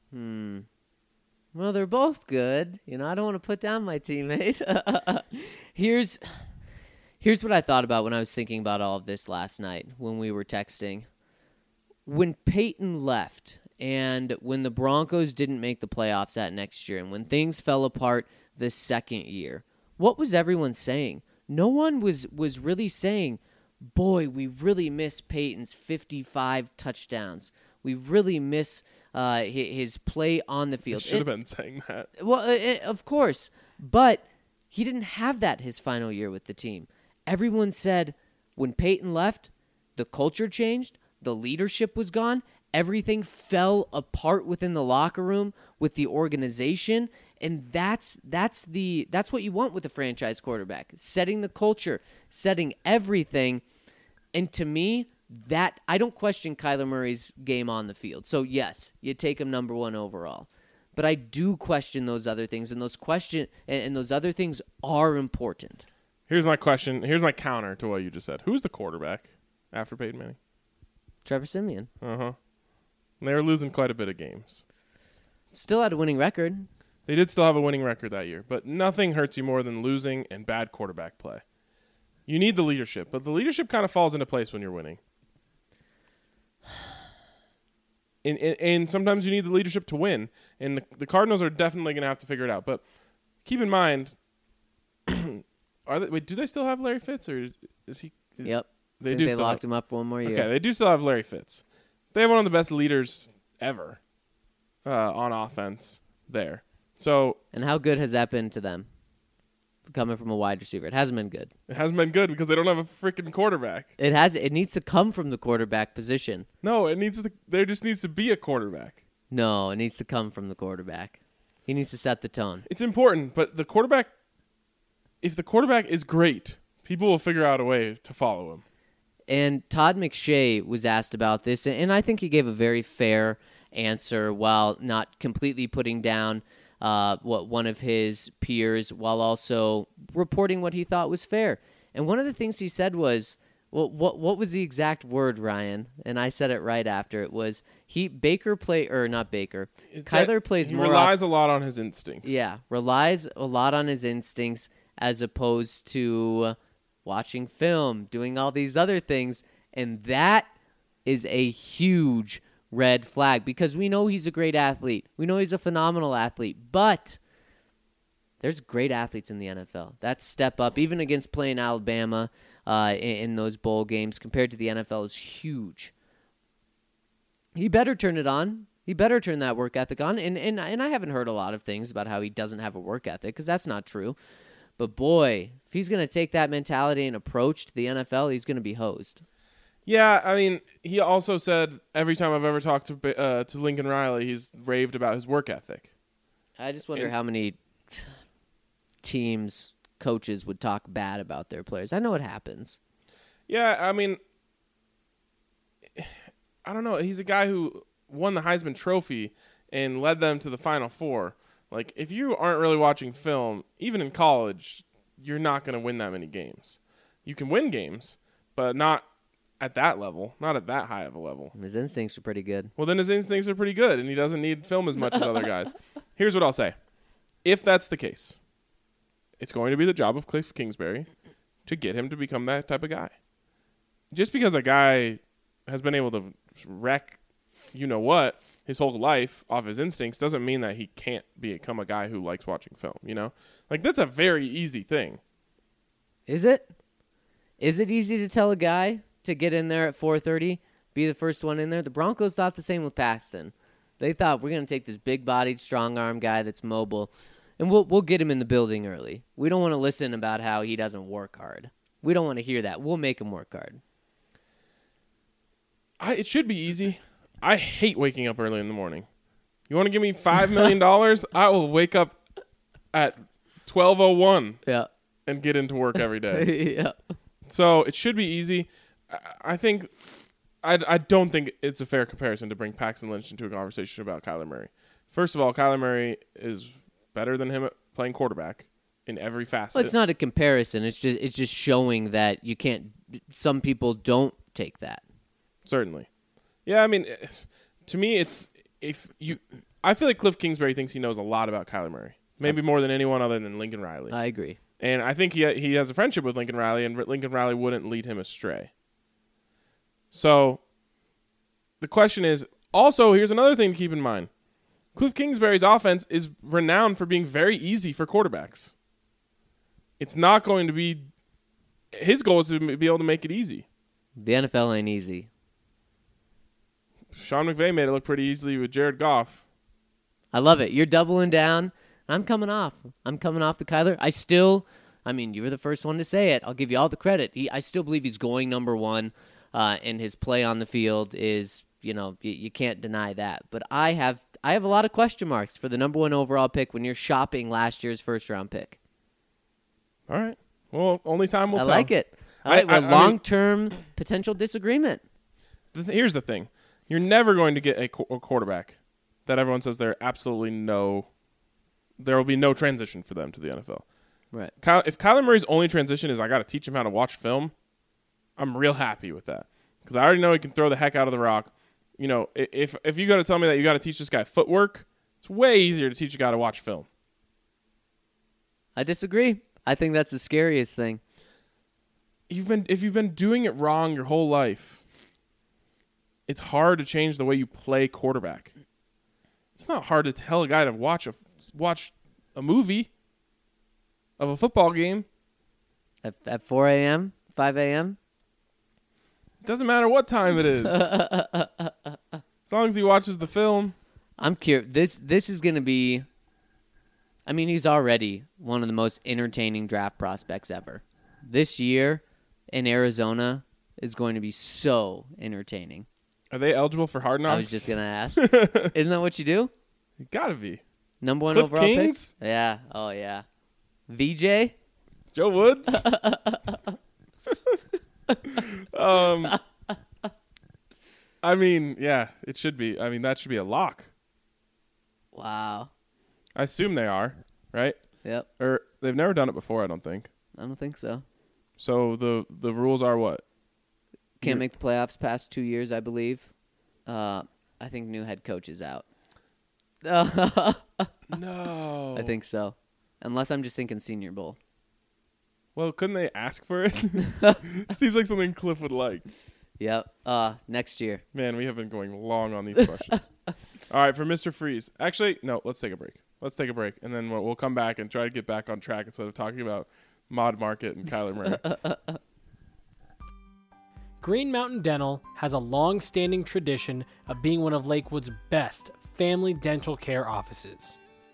Well, they're both good. I don't want to put down my teammate. Here's what I thought about when I was thinking about all of this last night when we were texting. When Peyton left and when the Broncos didn't make the playoffs that next year and when things fell apart the second year, what was everyone saying? No one was really saying, boy, we really miss Peyton's 55 touchdowns. We really miss his play on the field. Should have been saying that. Well, of course. But he didn't have that his final year with the team. Everyone said when Peyton left, the culture changed, the leadership was gone, everything fell apart within the locker room with the organization, and that's what you want with a franchise quarterback, setting the culture, setting everything. And to me, that I don't question Kyler Murray's game on the field. So yes, you take him number 1 overall. But I do question those other things, and those other things are important. Here's my question. Here's my counter to what you just said. Who's the quarterback after Peyton Manning? Trevor Siemian. Uh-huh. And they were losing quite a bit of games. Still had a winning record. They did still have a winning record that year, but nothing hurts you more than losing and bad quarterback play. You need the leadership, but the leadership kind of falls into place when you're winning. And sometimes you need the leadership to win, and the Cardinals are definitely going to have to figure it out. But keep in mind, do they still have Larry Fitz, or is he? Yep. They locked him up for one more year. Okay, they do still have Larry Fitz. They have one of the best leaders ever on offense there. So, and how good has that been to them? Coming from a wide receiver, it hasn't been good. It hasn't been good because they don't have a freaking quarterback. It needs to come from the quarterback position. No, there just needs to be a quarterback. No, it needs to come from the quarterback. He needs to set the tone. It's important, but the quarterback, if the quarterback is great, people will figure out a way to follow him. And Todd McShay was asked about this, and I think he gave a very fair answer while not completely putting down what one of his peers, while also reporting what he thought was fair. And one of the things he said was, well, what was the exact word, Ryan? And I said it right after. It was Kyler plays more. He relies a lot on his instincts. Yeah, relies a lot on his instincts as opposed to watching film, doing all these other things, and that is a huge red flag because we know he's a great athlete. We know he's a phenomenal athlete, but there's great athletes in the NFL. That step up, even against playing Alabama in those bowl games, compared to the NFL is huge. He better turn it on. He better turn that work ethic on. And I haven't heard a lot of things about how he doesn't have a work ethic because that's not true. But boy, if he's going to take that mentality and approach to the NFL, he's going to be hosed. Yeah, I mean, he also said every time I've ever talked to Lincoln Riley, he's raved about his work ethic. I just wonder how many teams, coaches would talk bad about their players. I know it happens. Yeah, I mean, I don't know. He's a guy who won the Heisman Trophy and led them to the Final Four. Like, if you aren't really watching film, even in college, you're not going to win that many games. You can win games, but not at that level, not at that high of a level. His instincts are pretty good. Well, then his instincts are pretty good, and he doesn't need film as much as other guys. Here's what I'll say. If that's the case, it's going to be the job of Cliff Kingsbury to get him to become that type of guy. Just because a guy has been able to wreck you-know-what his whole life off his instincts doesn't mean that he can't become a guy who likes watching film, you know? Like, that's a very easy thing. Is it? Is it easy to tell a guy to get in there at 4:30, be the first one in there? The Broncos thought the same with Paxton. They thought, we're going to take this big-bodied, strong-arm guy that's mobile, and we'll get him in the building early. We don't want to listen about how he doesn't work hard. We don't want to hear that. We'll make him work hard. It should be easy. I hate waking up early in the morning. You want to give me $5 million? I will wake up at 12:01 Yeah. and get into work every day. Yeah. So it should be easy. I think I don't think it's a fair comparison to bring Paxton Lynch into a conversation about Kyler Murray. First of all, Kyler Murray is better than him at playing quarterback in every facet. Well, it's not a comparison. It's just showing that you can't. Some people don't take that. Certainly. Yeah, I mean, to me, I feel like Cliff Kingsbury thinks he knows a lot about Kyler Murray. Maybe more than anyone other than Lincoln Riley. I agree. And I think he has a friendship with Lincoln Riley, and Lincoln Riley wouldn't lead him astray. So the question is, also, here's another thing to keep in mind. Cliff Kingsbury's offense is renowned for being very easy for quarterbacks. It's not going to be – his goal is to be able to make it easy. The NFL ain't easy. Sean McVay made it look pretty easily with Jared Goff. I love it. You're doubling down. I'm coming off the Kyler. You were the first one to say it. I'll give you all the credit. I still believe he's going number one, and his play on the field is, you can't deny that. But I have a lot of question marks for the number one overall pick when you're shopping last year's first-round pick. All right. Well, only time will tell. I like it. I like long-term potential disagreement. Here's the thing. You're never going to get a quarterback that everyone says there will be no transition for them to the NFL. Right. If Kyler Murray's only transition is I got to teach him how to watch film, I'm real happy with that because I already know he can throw the heck out of the rock. If you got to tell me that you got to teach this guy footwork, it's way easier to teach a guy to watch film. I disagree. I think that's the scariest thing. If you've been doing it wrong your whole life, it's hard to change the way you play quarterback. It's not hard to tell a guy to watch a movie of a football game at 4 a.m., 5 a.m. It doesn't matter what time it is, as long as he watches the film. I'm curious. This is going to be. I mean, he's already one of the most entertaining draft prospects ever. This year in Arizona is going to be so entertaining. Are they eligible for Hard Knocks? I was just going to ask. Isn't that what you do? You gotta be. Number one Cliff overall Kings? pick? Yeah. Oh, yeah. VJ? Joe Woods? I mean, yeah, it should be. I mean, that should be a lock. Wow. I assume they are, right? Yep. Or they've never done it before, I don't think. I don't think so. So the rules are what? Can't make the playoffs past 2 years, I believe. I think new head coach is out. No. I think so. Unless I'm just thinking Senior Bowl. Well, couldn't they ask for it? Seems like something Cliff would like. Yep. Next year. Man, we have been going long on these questions. All right, for Mr. Freeze. Actually, no, let's take a break. And then we'll come back and try to get back on track instead of talking about Mod Market and Kyler Murray. Green Mountain Dental has a long-standing tradition of being one of Lakewood's best family dental care offices.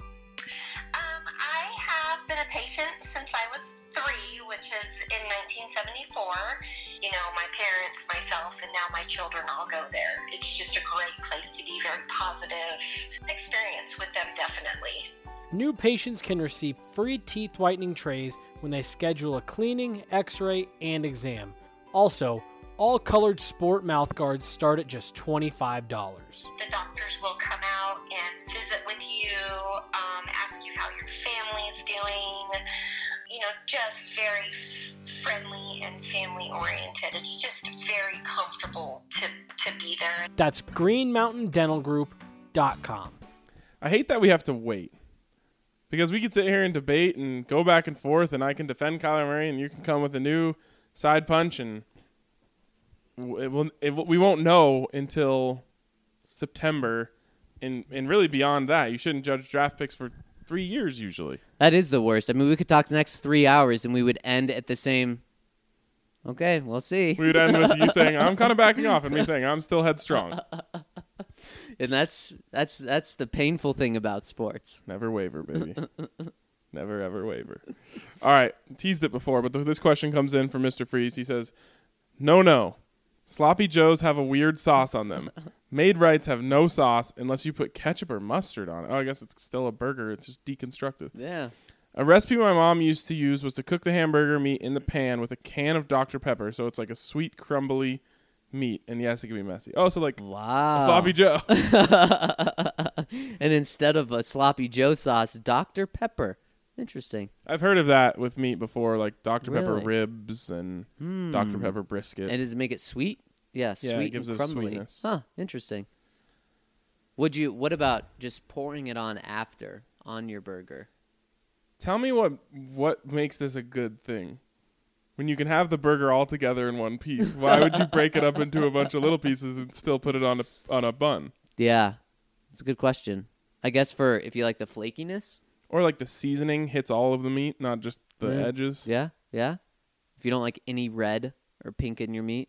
I have been a patient since I was 3, which is in 1974. My parents, myself, and now my children all go there. It's just a great place to be, very positive experience with them, definitely. New patients can receive free teeth whitening trays when they schedule a cleaning, x-ray, and exam. Also, all colored sport mouth guards start at just $25. The doctors will come out and visit with you, ask you how your family's doing, just very friendly and family oriented. It's just very comfortable to be there. That's greenmountaindentalgroup.com. I hate that we have to wait. Because we could sit here and debate and go back and forth, and I can defend Kyler Murray, and you can come with a new side punch, and we won't know until September, and really beyond that. You shouldn't judge draft picks for 3 years usually. That is the worst. I mean, we could talk the next 3 hours, and we would end at the same. Okay, we'll see. We would end with you saying, I'm kind of backing off, and me saying, I'm still headstrong. And that's the painful thing about sports. Never waver, baby. Never, ever waver. All right. Teased it before, but this question comes in from Mr. Freeze. He says, No. Sloppy Joes have a weird sauce on them. Made Rights have no sauce unless you put ketchup or mustard on it. Oh, I guess it's still a burger. It's just deconstructed. Yeah. A recipe my mom used to use was to cook the hamburger meat in the pan with a can of Dr. Pepper, so it's like a sweet, crumbly meat. And yes, it can be messy. Oh, so like Wow. a Sloppy Joe. And instead of a Sloppy Joe sauce, Dr. Pepper. Interesting. I've heard of that with meat before, like Dr. Pepper Really? ribs and Dr. Pepper brisket. And does it make it sweet? Yeah, Yeah, it sweet gives and it a crumbly. sweetness. Huh, interesting. What about just pouring it on after on your burger? Tell me what makes this a good thing. When you can have the burger all together in one piece, why would you break it up into a bunch of little pieces and still put it on a bun? Yeah, it's a good question. I guess for if you like the flakiness. Or like the seasoning hits all of the meat, not just the Yeah. edges. Yeah. If you don't like any red or pink in your meat.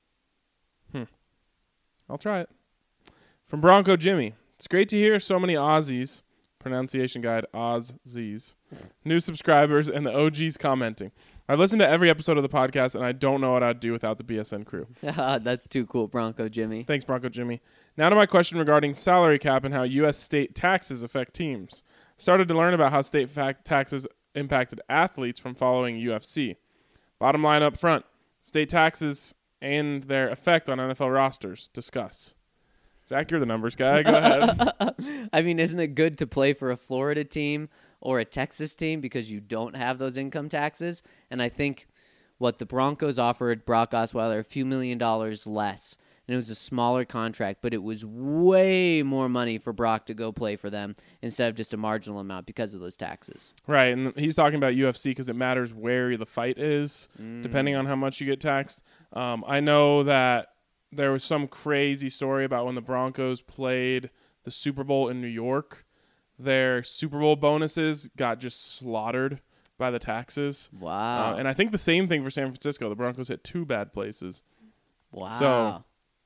I'll try it. From Bronco Jimmy. It's great to hear so many Aussies, pronunciation guide, Aussies, new subscribers, and the OGs commenting. I've listened to every episode of the podcast, and I don't know what I'd do without the BSN crew. That's too cool, Bronco Jimmy. Thanks, Bronco Jimmy. Now to my question regarding salary cap and how U.S. state taxes affect teams. Started to learn about how state taxes impacted athletes from following UFC. Bottom line up front, state taxes and their effect on NFL rosters. Discuss. Zach, you're the numbers guy. Go ahead. I mean, isn't it good to play for a Florida team or a Texas team because you don't have those income taxes? And I think what the Broncos offered Brock Osweiler a few $1 million less. And it was a smaller contract, but it was way more money for Brock to go play for them instead of just a marginal amount because of those taxes. Right, and he's talking about UFC because it matters where the fight is, depending on how much you get taxed. I know that there was some crazy story about when the Broncos played the Super Bowl in New York. Their Super Bowl bonuses got just slaughtered by the taxes. Wow. And I think the same thing for San Francisco. The Broncos hit 2 bad places. Wow. So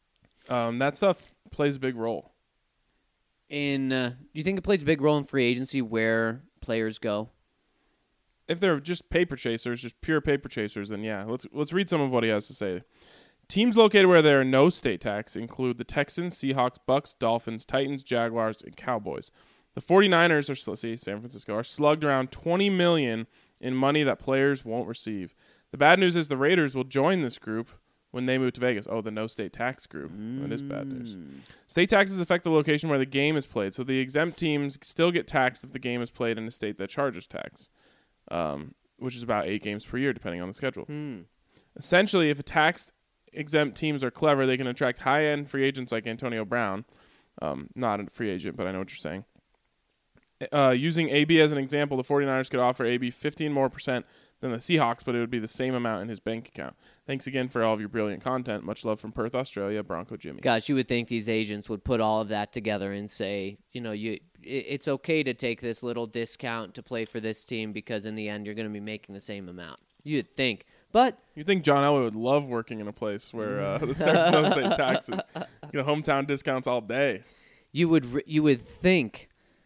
that stuff plays a big role. Do you think it plays a big role in free agency where players go? If they're just paper chasers, just pure paper chasers, then yeah. Let's read some of what he has to say. Teams located where there are no state tax include the Texans, Seahawks, Bucks, Dolphins, Titans, Jaguars, and Cowboys. The 49ers, San Francisco, are slugged around $20 million in money that players won't receive. The bad news is the Raiders will join this group when they move to Vegas. Oh, the no state tax group. That is bad news. State taxes affect the location where the game is played, so the exempt teams still get taxed if the game is played in a state that charges tax, which is about 8 games per year, depending on the schedule. Essentially, if a tax-exempt teams are clever, they can attract high-end free agents like Antonio Brown. Not a free agent, but I know what you're saying. Using AB as an example, the 49ers could offer AB 15% more than the Seahawks, but it would be the same amount in his bank account. Thanks again for all of your brilliant content. Much love from Perth, Australia, Bronco Jimmy. Gosh, you would think these agents would put all of that together and say, it's okay to take this little discount to play for this team because in the end you're going to be making the same amount. You'd think. But you think John Elway would love working in a place where there's no state taxes. Hometown discounts all day. You would think.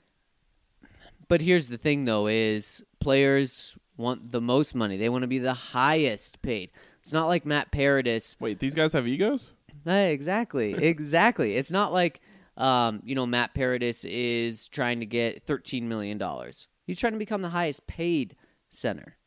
But here's the thing, though, is players want the most money. They want to be the highest paid. It's not like Matt Paradis. Wait, these guys have egos? Exactly. It's not like, Matt Paradis is trying to get $13 million. He's trying to become the highest paid center.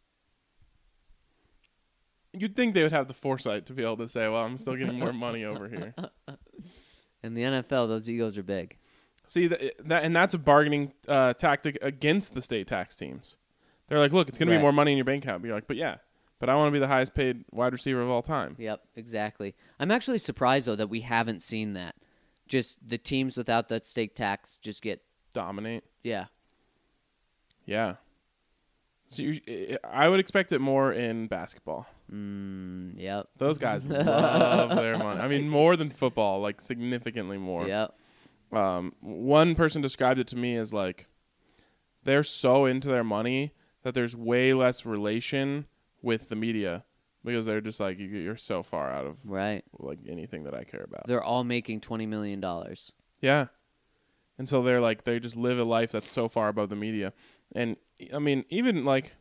You'd think they would have the foresight to be able to say, well, I'm still getting more money over here. In the NFL, those egos are big. See, that's a bargaining tactic against the state tax teams. They're like, look, it's going to be more money in your bank account. But you're like, but yeah, but I want to be the highest paid wide receiver of all time. Yep, exactly. I'm actually surprised, though, that we haven't seen that. Just the teams without that state tax just get, Dominate. yeah. Yeah. So I would expect it more in basketball. Yep. Those guys love their money. I mean, more than football, like significantly more. Yep. One person described it to me as like they're so into their money that there's way less relation with the media because they're just like you're so far out of Right. like anything that I care about. They're all making $20 million. Yeah. And so they're like they just live a life that's so far above the media. And I mean, even like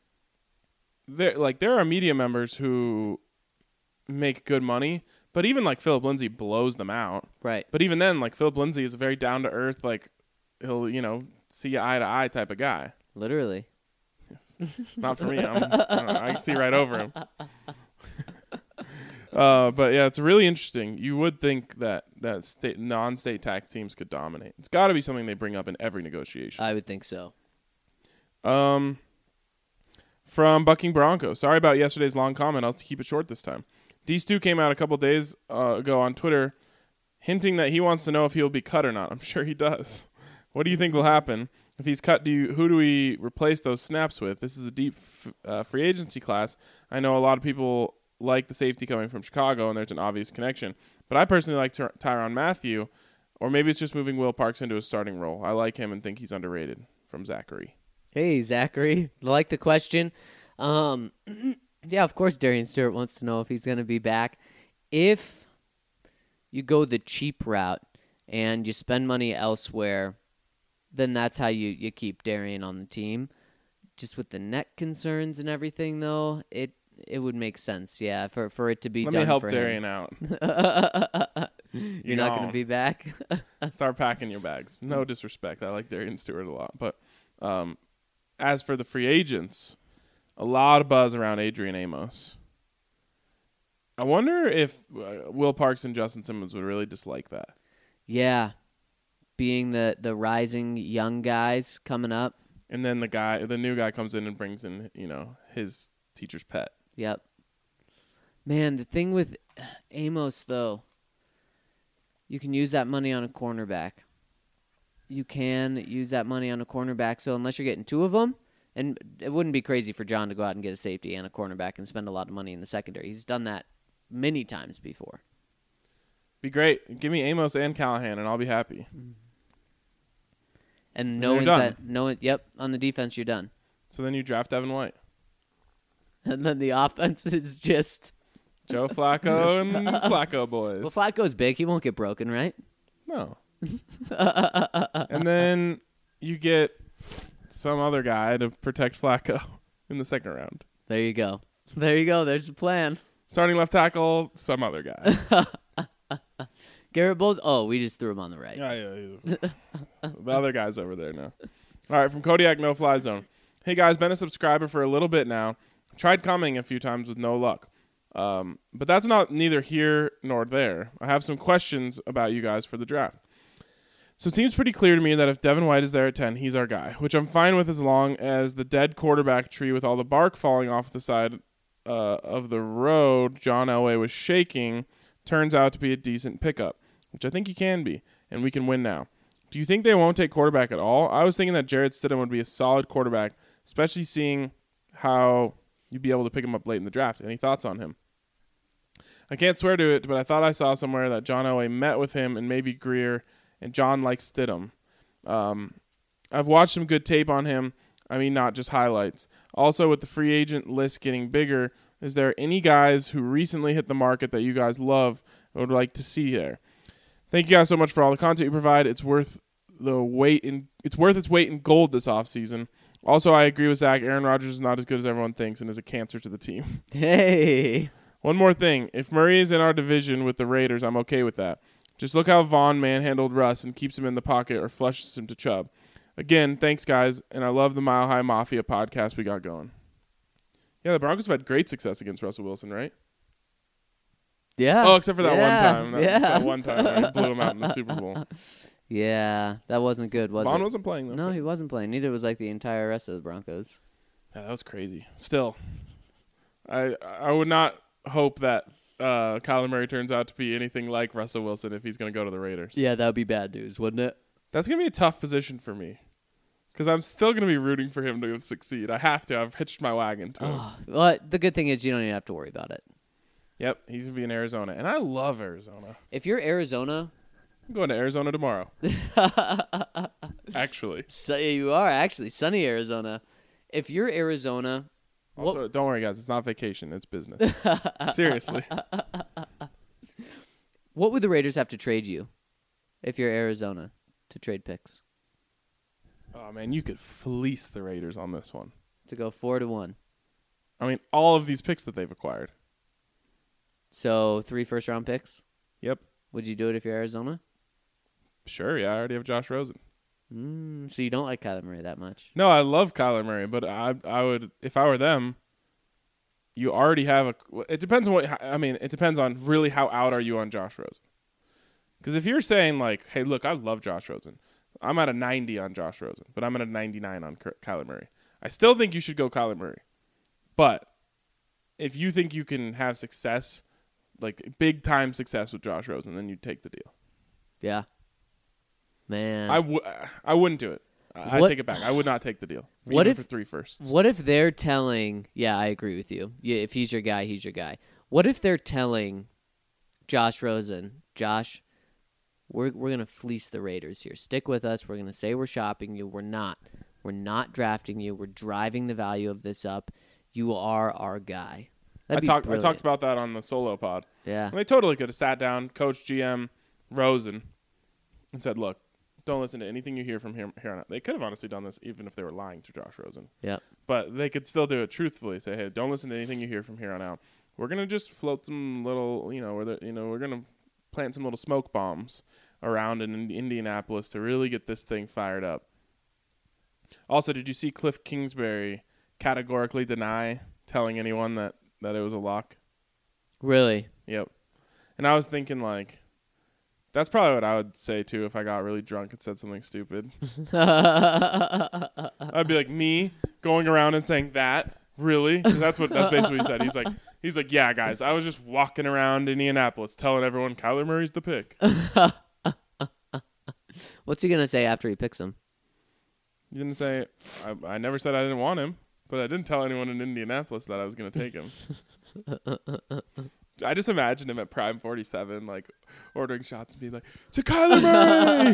there are media members who make good money, but even like Philip Lindsay blows them out. Right. But even then, like Philip Lindsay is a very down to earth, like he'll see you eye to eye type of guy. Literally. Not for me. I can see right over him. But yeah, it's really interesting. You would think that non-state tax teams could dominate. It's got to be something they bring up in every negotiation. I would think so. From Bucking Bronco. Sorry about yesterday's long comment. I'll keep it short this time. D-Stu came out a couple days ago on Twitter hinting that he wants to know if he'll be cut or not. I'm sure he does. What do you think will happen? If he's cut, who do we replace those snaps with? This is a deep free agency class. I know a lot of people like the safety coming from Chicago, and there's an obvious connection. But I personally like Tyrann Mathieu, or maybe it's just moving Will Parks into a starting role. I like him and think he's underrated. From Zachary. Hey, Zachary. Like the question. Yeah, of course Darian Stewart wants to know if he's going to be back. If you go the cheap route and you spend money elsewhere, then that's how you keep Darian on the team. Just with the neck concerns and everything, though, it would make sense, yeah, for it to be Let done me help for Darian him. out. You're not going to be back? Start packing your bags. No disrespect. I like Darian Stewart a lot. But as for the free agents, a lot of buzz around Adrian Amos. I wonder if Will Parks and Justin Simmons would really dislike that. Yeah, being the rising young guys coming up. And then the new guy comes in and brings in, his teacher's pet. Yep. Man, the thing with Amos, though, you can use that money on a cornerback. So unless you're getting two of them, and it wouldn't be crazy for John to go out and get a safety and a cornerback and spend a lot of money in the secondary. He's done that many times before. Be great. Give me Amos and Callahan, and I'll be happy. And Yep, on the defense, you're done. So then you draft Devin White. And then the offense is just Joe Flacco and Flacco boys. Well, Flacco's big. He won't get broken, right? No. And then you get some other guy to protect Flacco in the second round. There you go. There's the plan. Starting left tackle, some other guy. Garrett Bowles. Oh, we just threw him on the right. Yeah. The other guy's over there now. All right, from Kodiak No Fly Zone. Hey, guys, been a subscriber for a little bit now. Tried commenting a few times with no luck. But that's neither here nor there. I have some questions about you guys for the draft. So it seems pretty clear to me that if Devin White is there at 10, he's our guy, which I'm fine with as long as the dead quarterback tree with all the bark falling off the side of the road John Elway was shaking turns out to be a decent pickup, which I think he can be, and we can win now. Do you think they won't take quarterback at all? I was thinking that Jarrett Stidham would be a solid quarterback, especially seeing how you'd be able to pick him up late in the draft. Any thoughts on him? I can't swear to it, but I thought I saw somewhere that John Elway met with him and maybe Greer, and John likes Stidham. I've watched some good tape on him. I mean, not just highlights. Also, with the free agent list getting bigger, is there any guys who recently hit the market that you guys love and would like to see there? Thank you guys so much for all the content you provide. It's worth its weight in gold this offseason. Also, I agree with Zach. Aaron Rodgers is not as good as everyone thinks and is a cancer to the team. Hey. One more thing. If Murray is in our division with the Raiders, I'm okay with that. Just look how Vaughn manhandled Russ and keeps him in the pocket or flushes him to Chubb. Again, thanks, guys, and I love the Mile High Mafia podcast we got going. Yeah, the Broncos have had great success against Russell Wilson, right? Yeah. Oh, except for that one time. That one time where he blew him out in the Super Bowl. Yeah, that wasn't good, was it? Vaughn wasn't playing, though. No, he wasn't playing. Neither was the entire rest of the Broncos. Yeah, that was crazy. Still, I would not hope that Kyler Murray turns out to be anything like Russell Wilson if he's going to go to the Raiders. Yeah, that would be bad news, wouldn't it? That's going to be a tough position for me because I'm still going to be rooting for him to succeed. I have to. I've hitched my wagon to him. Oh, well, the good thing is you don't even have to worry about it. Yep, he's going to be in Arizona, and I love Arizona. If you're Arizona, I'm going to Arizona tomorrow. Actually. so you are actually sunny Arizona. If you're Arizona, Also, don't worry, guys. It's not vacation. It's business. Seriously. what would the Raiders have to trade you if you're Arizona to trade picks? Oh, man, you could fleece the Raiders on this one. To go 4-1. I mean, all of these picks that they've acquired. So 3 first-round picks? Yep. Would you do it if you're Arizona? Sure, yeah. I already have Josh Rosen. So you don't like Kyler Murray that much? No, I love Kyler Murray, but I would, if I were them, you already have it depends on it depends on really how out are you on Josh Rosen. Because if you're saying like, hey, look, I love Josh Rosen. I'm at a 90 on Josh Rosen, but I'm at a 99 on Kyler Murray. I still think you should go Kyler Murray. But if you think you can have success, like big time success with Josh Rosen, then you take the deal. Yeah. Man. I wouldn't do it. I take it back. I would not take the deal. Even for 3 firsts. What if they're telling? Yeah, I agree with you. Yeah, if he's your guy, he's your guy. What if they're telling Josh Rosen, Josh, we're gonna fleece the Raiders here. Stick with us. We're gonna say we're shopping you. We're not. We're not drafting you. We're driving the value of this up. You are our guy. I talked about that on the solo pod. Yeah. And they totally could have sat down, coach, GM, Rosen, and said, look, don't listen to anything you hear from here on out. They could have honestly done this even if they were lying to Josh Rosen. Yep. But they could still do it truthfully. Say, hey, don't listen to anything you hear from here on out. We're going to just float some little, we're going to plant some little smoke bombs around in Indianapolis to really get this thing fired up. Also, did you see Cliff Kingsbury categorically deny telling anyone that it was a lock? Really? Yep. And I was thinking, like, that's probably what I would say, too, if I got really drunk and said something stupid. I'd be like, me going around and saying that? Really? 'Cause that's basically what he said. He's like, yeah, guys, I was just walking around Indianapolis telling everyone Kyler Murray's the pick. What's he going to say after he picks him? He didn't say, I never said I didn't want him, but I didn't tell anyone in Indianapolis that I was going to take him. I just imagined him at Prime 47, like, ordering shots and being like, to Kyler Murray!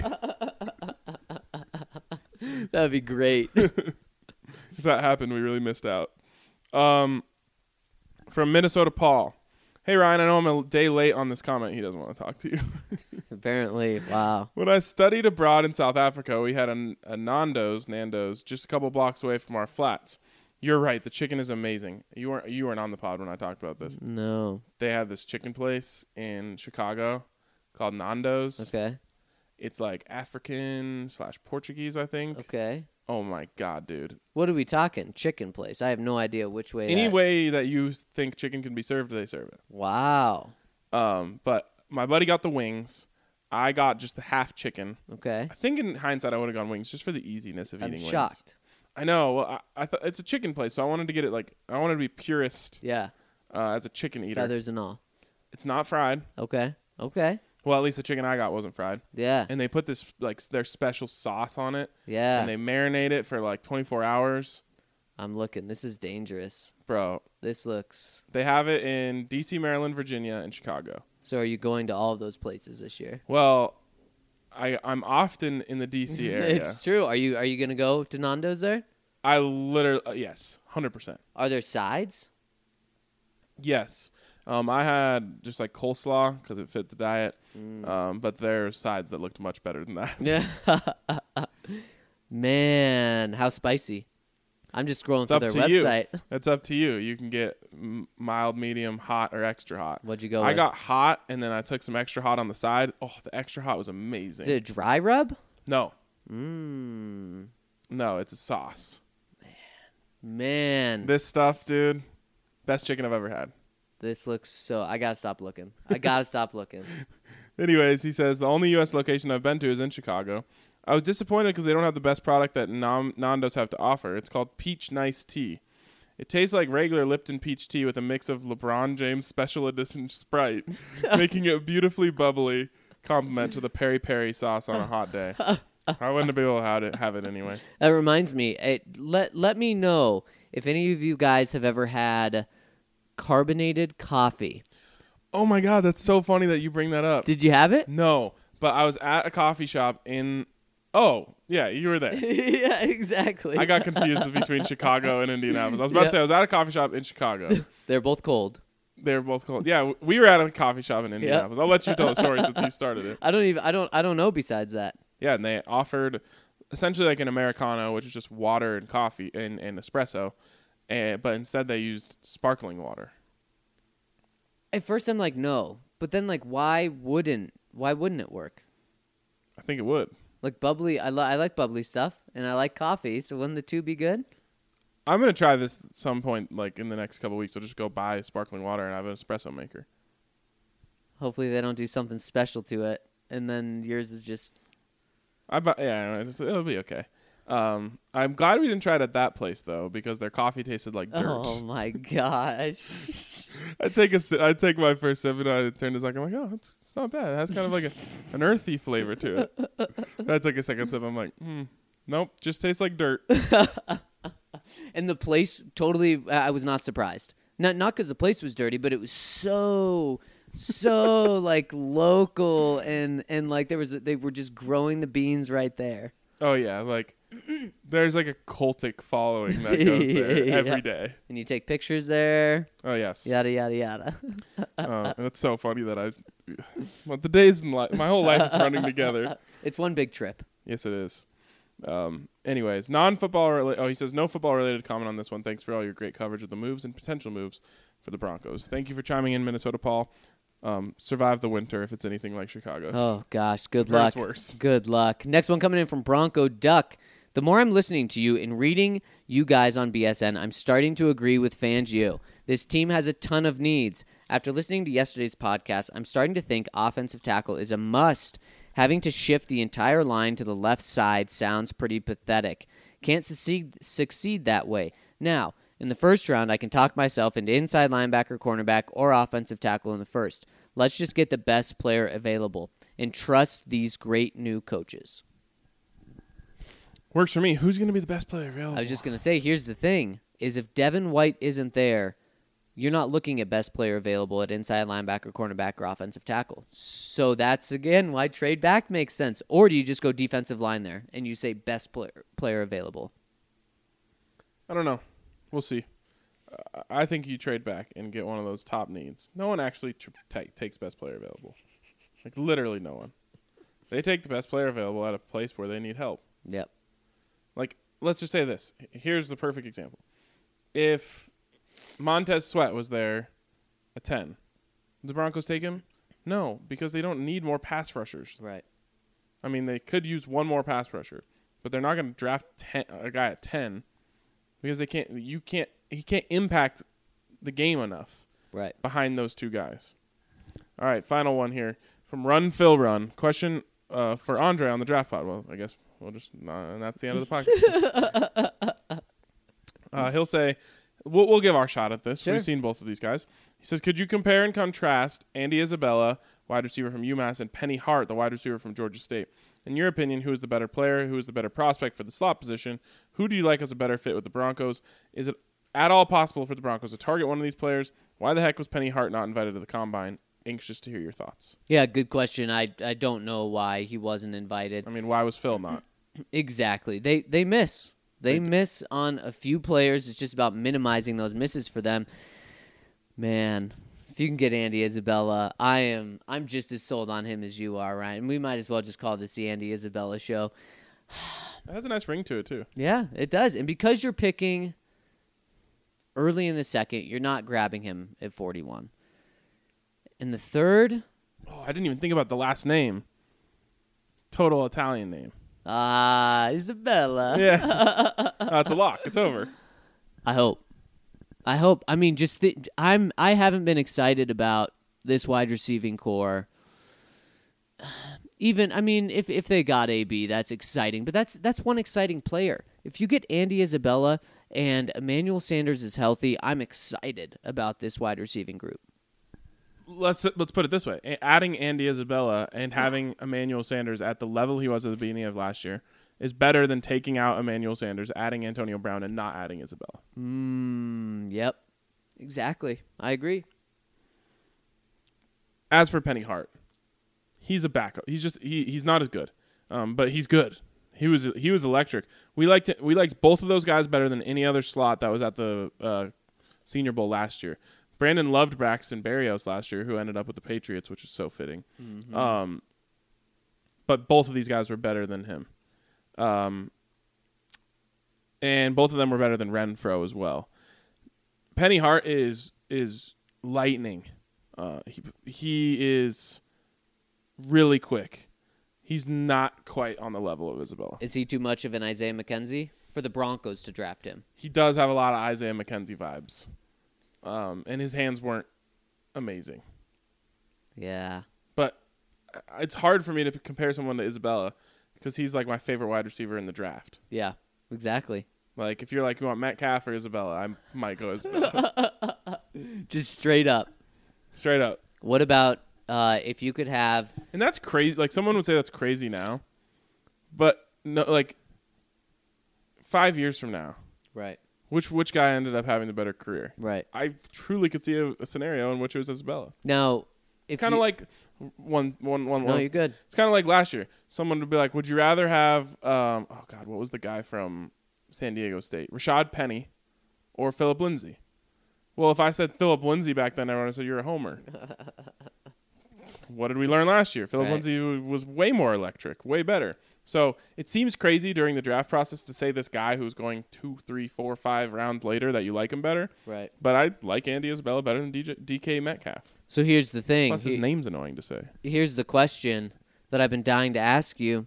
That would be great. If that happened, we really missed out. From Minnesota Paul. Hey, Ryan, I know I'm a day late on this comment. He doesn't want to talk to you. Apparently, wow. When I studied abroad in South Africa, we had a Nando's, just a couple blocks away from our flats. You're right. The chicken is amazing. You weren't on the pod when I talked about this. No. They had this chicken place in Chicago called Nando's. Okay. It's like African/Portuguese, I think. Okay. Oh, my God, dude. What are we talking? Chicken place. I have no idea which way. Any way that you think chicken can be served, they serve it. Wow. But my buddy got the wings. I got just the half chicken. Okay. I think in hindsight, I would have gone wings just for the easiness of eating wings. I'm shocked. I know. Well, I thought it's a chicken place, so I wanted to get it I wanted to be purist. Yeah. As a chicken eater. Feathers and all. It's not fried. Okay. Well, at least the chicken I got wasn't fried. Yeah. And they put this their special sauce on it. Yeah. And they marinate it for 24 hours. I'm looking. This is dangerous. Bro. This looks. They have it in D.C., Maryland, Virginia, and Chicago. So are you going to all of those places this year? Well, I'm often in the D.C. area. It's true. Are you going to go to Nando's there? I literally, yes, 100%. Are there sides? Yes. I had just coleslaw because it fit the diet. But there's sides that looked much better than that. Yeah. Man, how spicy. I'm just scrolling through their website. That's up to you. You can get mild, medium, hot, or extra hot. What'd you go I with? got hot, and then I took some extra hot on the side. Oh, the extra hot was amazing. Is it a dry rub? No. No, it's a sauce. Man. This stuff, dude, best chicken I've ever had. This looks so... I got to stop looking. Anyways, he says, the only U.S. location I've been to is in Chicago. I was disappointed because they don't have the best product that Nando's have to offer. It's called Peach Nice Tea. It tastes like regular Lipton peach tea with a mix of LeBron James Special Edition Sprite, making it beautifully bubbly compliment to the peri-peri sauce on a hot day. I wouldn't be able to have it anyway. That reminds me. Let me know if any of you guys have ever had carbonated coffee. Oh my God, that's so funny that you bring that up. Did you have it? No, but I was at a coffee shop in... Oh, yeah, you were there. Yeah, exactly. I got confused between Chicago and Indianapolis. I was about to say I was at a coffee shop in Chicago. They're both cold. They were both cold. Yeah, we were at a coffee shop in Indianapolis. I'll let you tell the story since you started it. I don't know besides that. Yeah, and they offered essentially like an Americano, which is just water and coffee and espresso, but instead they used sparkling water. At first I'm like, no. But then like why wouldn't it work? I think it would. Like bubbly, I like bubbly stuff, and I like coffee, so wouldn't the two be good? I'm going to try this at some point, like in the next couple of weeks. I'll just go buy sparkling water and have an espresso maker. Hopefully they don't do something special to it, and then yours is just... It'll be okay. I'm glad we didn't try it at that place, though, because their coffee tasted like dirt. Oh, my gosh. I'd take my first sip and I turn to Zach. I'm like, oh, it's not bad. It has kind of like an earthy flavor to it. And I took a second sip. I'm like, nope, just tastes like dirt. And the place totally, I was not surprised. Not because the place was dirty, but it was so like local and like they were just growing the beans right there. Oh yeah, like there's like a cultic following that goes there every day. And you take pictures there. Oh yes. Yada yada yada. And it's so funny that the days in my whole life is running together. It's one big trip. Yes, it is. Anyways, non-football he says no football related comment on this one. Thanks for all your great coverage of the moves and potential moves for the Broncos. Thank you for chiming in, Minnesota Paul. Survive the winter if it's anything like Chicago's. Oh gosh, good luck. It's worse. Good luck. Next one coming in from Bronco Duck. The more I'm listening to you and reading you guys on BSN, I'm starting to agree with Fangio. This team has a ton of needs. After listening to yesterday's podcast, I'm starting to think offensive tackle is a must. Having to shift the entire line to the left side sounds pretty pathetic. Can't succeed that way. Now, in the first round, I can talk myself into inside linebacker, cornerback, or offensive tackle in the first. Let's just get the best player available and trust these great new coaches. Works for me. Who's going to be the best player available? I was just going to say, here's the thing, is if Devin White isn't there, you're not looking at best player available at inside linebacker, cornerback, or offensive tackle. So that's, again, why trade back makes sense. Or do you just go defensive line there and you say best player available? I don't know. We'll see. I think you trade back and get one of those top needs. No one actually takes best player available. Like, literally no one. They take the best player available at a place where they need help. Yep. Like, let's just say this. Here's the perfect example. If Montez Sweat was there at 10, would the Broncos take him? No, because they don't need more pass rushers. Right. I mean, they could use one more pass rusher, but they're not going to draft a guy at 10 because he can't impact the game enough. Right. Behind those two guys. All right, final one here from Run Phil Run. Question for Andre on the draft pod. Well, I guess we'll just and that's the end of the podcast. He'll say, we'll give our shot at this. Sure. We've seen both of these guys. He says, could you compare and contrast Andy Isabella, wide receiver from UMass, and Penny Hart, the wide receiver from Georgia State? In your opinion, who is the better player? Who is the better prospect for the slot position? Who do you like as a better fit with the Broncos? Is it at all possible for the Broncos to target one of these players? Why the heck was Penny Hart not invited to the Combine? Anxious to hear your thoughts. Yeah, good question. I don't know why he wasn't invited. I mean, why was Phil not? Exactly. They miss. They miss on a few players. It's just about minimizing those misses for them. Man, if you can get Andy Isabella, I'm just as sold on him as you are, Ryan. We might as well just call this the Andy Isabella show. It has a nice ring to it, too. Yeah, it does. And because you're picking early in the second, you're not grabbing him at 41. In the third... Oh, I didn't even think about the last name. Total Italian name. Isabella. Yeah. It's a lock. It's over. I hope. I mean, I haven't been excited about this wide receiving core. Even, I mean, if they got AB, that's exciting. But that's one exciting player. If you get Andy Isabella and Emmanuel Sanders is healthy, I'm excited about this wide receiving group. Let's put it this way. Adding Andy Isabella and having Emmanuel Sanders at the level he was at the beginning of last year is better than taking out Emmanuel Sanders, adding Antonio Brown, and not adding Isabella. Yep. Exactly. I agree. As for Penny Hart, he's a backup. He's not as good, but he's good. He was electric. We liked both of those guys better than any other slot that was at the Senior Bowl last year. Brandon loved Braxton Berrios last year, who ended up with the Patriots, which is so fitting. Mm-hmm. But both of these guys were better than him, and both of them were better than Renfro as well. Penny Hart is lightning. He is really quick. He's not quite on the level of Isabella. Is he too much of an Isaiah McKenzie for the Broncos to draft him? He does have a lot of Isaiah McKenzie vibes. And his hands weren't amazing. Yeah. But it's hard for me to compare someone to Isabella because he's like my favorite wide receiver in the draft. Yeah, exactly. Like, if you're like, you want Metcalf or Isabella, I might go Isabella. Just straight up. Straight up. What about if you could have... And that's crazy. Like, someone would say that's crazy now. But, no, like, 5 years from now. Right. Which guy ended up having the better career? Right. I truly could see a scenario in which it was Isabella. Now, it's kind of like one. No, you're good. It's kind of like last year. Someone would be like, "Would you rather have what was the guy from San Diego State? Rashad Penny or Phillip Lindsay?" Well, if I said Phillip Lindsay back then, everyone would say you're a homer. What did we learn last year? Phillip Lindsay was way more electric, way better. So it seems crazy during the draft process to say this guy who's going 2, 3, 4, 5 rounds later that you like him better. Right. But I like Andy Isabella better than DK Metcalf. So here's the thing. Plus his name's annoying to say. Here's the question that I've been dying to ask you.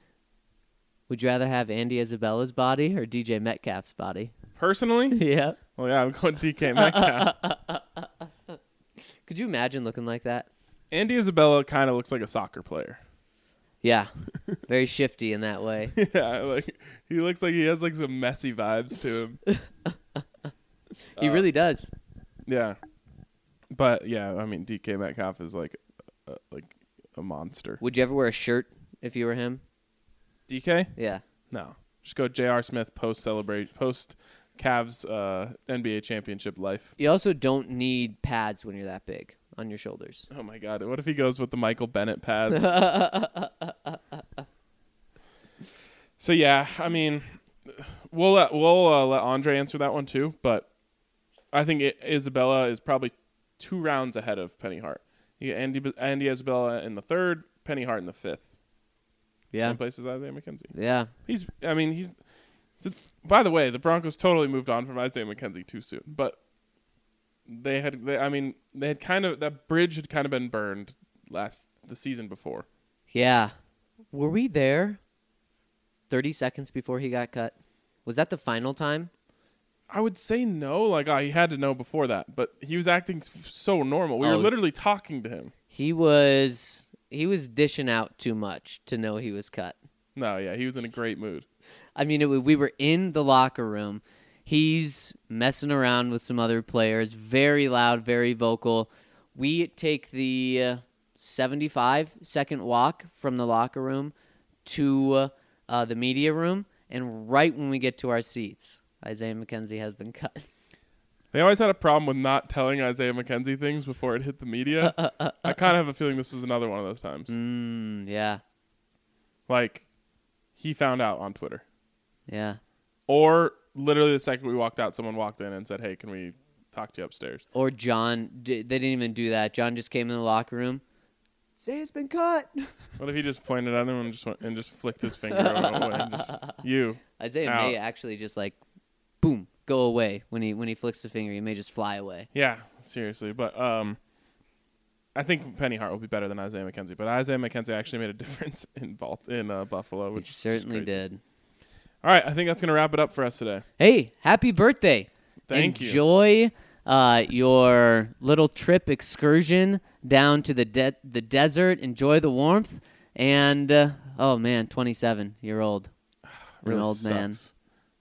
Would you rather have Andy Isabella's body or DJ Metcalf's body? Personally? Yeah. Well, yeah, I'm going DK Metcalf. Could you imagine looking like that? Andy Isabella kind of looks like a soccer player. Yeah. Very shifty in that way. Yeah, like he looks like he has like some messy vibes to him. He really does. Yeah. But yeah, I mean DK Metcalf is like a monster. Would you ever wear a shirt if you were him? DK? Yeah. No. Just go J.R. Smith post Cavs NBA championship life. You also don't need pads when you're that big on your shoulders. Oh my God! What if he goes with the Michael Bennett pads? So yeah, I mean, we'll let Andre answer that one too. But I think Isabella is probably 2 rounds ahead of Penny Hart. You get Andy Isabella in the 3rd, Penny Hart in the 5th. Yeah. Same place as Isaiah McKenzie. Yeah. By the way, the Broncos totally moved on from Isaiah McKenzie too soon. But they had kind of, that bridge had kind of been burned the season before. Yeah. Were we there 30 seconds before he got cut? Was that the final time? I would say no. Like, he had to know before that. But he was acting so normal. We were literally talking to him. He was dishing out too much to know he was cut. No, yeah, he was in a great mood. I mean, we were in the locker room. He's messing around with some other players, very loud, very vocal. We take the 75-second walk from the locker room to the media room, and right when we get to our seats, Isaiah McKenzie has been cut. They always had a problem with not telling Isaiah McKenzie things before it hit the media. I kind of have a feeling this is another one of those times. Yeah. Like, he found out on Twitter. Yeah. Or literally the second we walked out, someone walked in and said, "Hey, can we talk to you upstairs?" Or John, they didn't even do that. John just came in the locker room. Say it's been cut. What if he just pointed at him and just flicked his finger away and just, you. Isaiah may actually just like, boom, go away when he flicks the finger. He may just fly away. Yeah, seriously. But I think Penny Hart will be better than Isaiah McKenzie. But Isaiah McKenzie actually made a difference in Buffalo. Which he certainly did. All right, I think that's going to wrap it up for us today. Hey, happy birthday. Thank you. Enjoy your little trip excursion down to the desert. Enjoy the warmth. And, 27. You're old. You're Really an old sucks. man.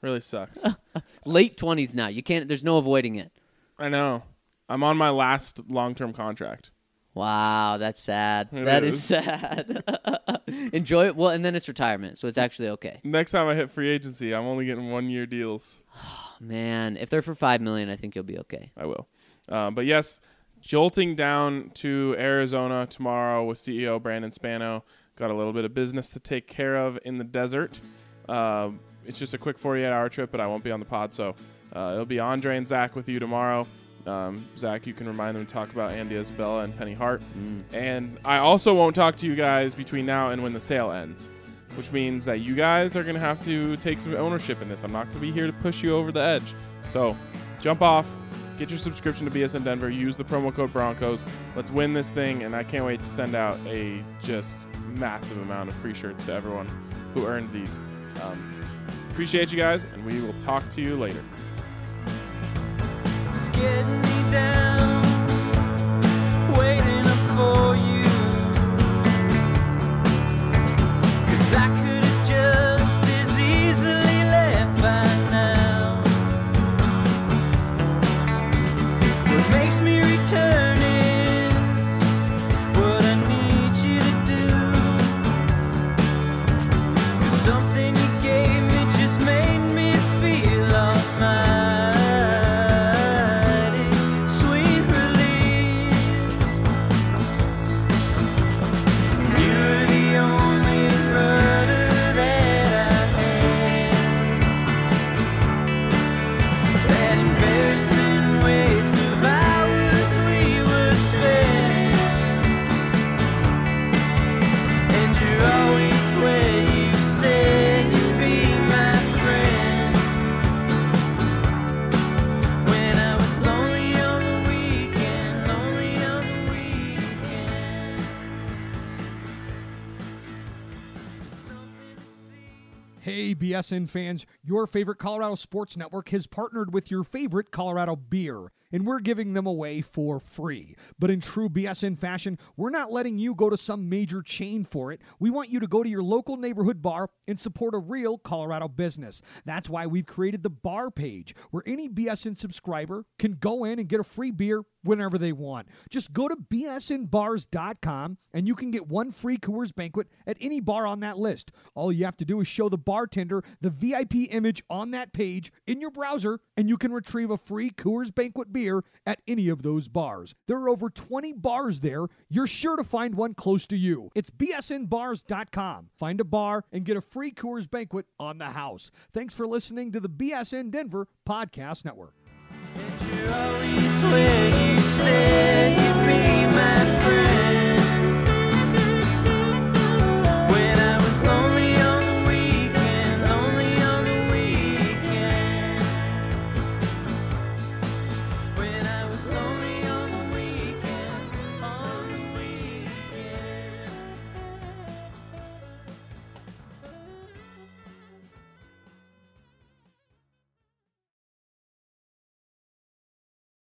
Really sucks. Late 20s now. You can't. There's no avoiding it. I know. I'm on my last long-term contract. Wow, that's sad. It That is. is sad. Enjoy it. Well, and then it's retirement, so it's actually okay. Next time I hit free agency, I'm only getting 1-year deals. Man, if they're for $5 million, I think you'll be okay. I will. But yes, jolting down to Arizona tomorrow with CEO Brandon Spano. Got a little bit of business to take care of in the desert. It's just a quick 48-hour trip, but I won't be on the pod, so it'll be Andre and Zach with you tomorrow. Zach, you can remind them to talk about Andy Isabella and Penny Hart. And I also won't talk to you guys between now and when the sale ends, which means that you guys are going to have to take some ownership in this. I'm not going to be here to push you over the edge. So jump off, get your subscription to BSN Denver, use the promo code Broncos. Let's win this thing, and I can't wait to send out a just massive amount of free shirts to everyone who earned these. Appreciate you guys, and we will talk to you later. It's getting me down, waiting up for you. 'Cause I could have just as easily left by now. What makes me return is what I need you to do. 'Cause something you gave me just made me feel almighty. Sweet release. You're the only rudder that I had. That embarrassing waste of hours we would spend. And you're always where you said you'd be my friend. When I was lonely on the weekend, lonely on the weekend. Something to see. Hey, BSN fans, your favorite Colorado Sports Network has partnered with your favorite Colorado beer, and we're giving them away for free. But in true BSN fashion, we're not letting you go to some major chain for it. We want you to go to your local neighborhood bar and support a real Colorado business. That's why we've created the bar page, where any BSN subscriber can go in and get a free beer whenever they want. Just go to bsnbars.com and you can get one free Coors Banquet at any bar on that list. All you have to do is show the bartender the VIP image on that page in your browser, and you can retrieve a free Coors Banquet beer at any of those bars. There are over 20 bars there. You're sure to find one close to you. It's bsnbars.com. Find a bar and get a free Coors Banquet on the house. Thanks for listening to the BSN Denver Podcast Network. You're always where you said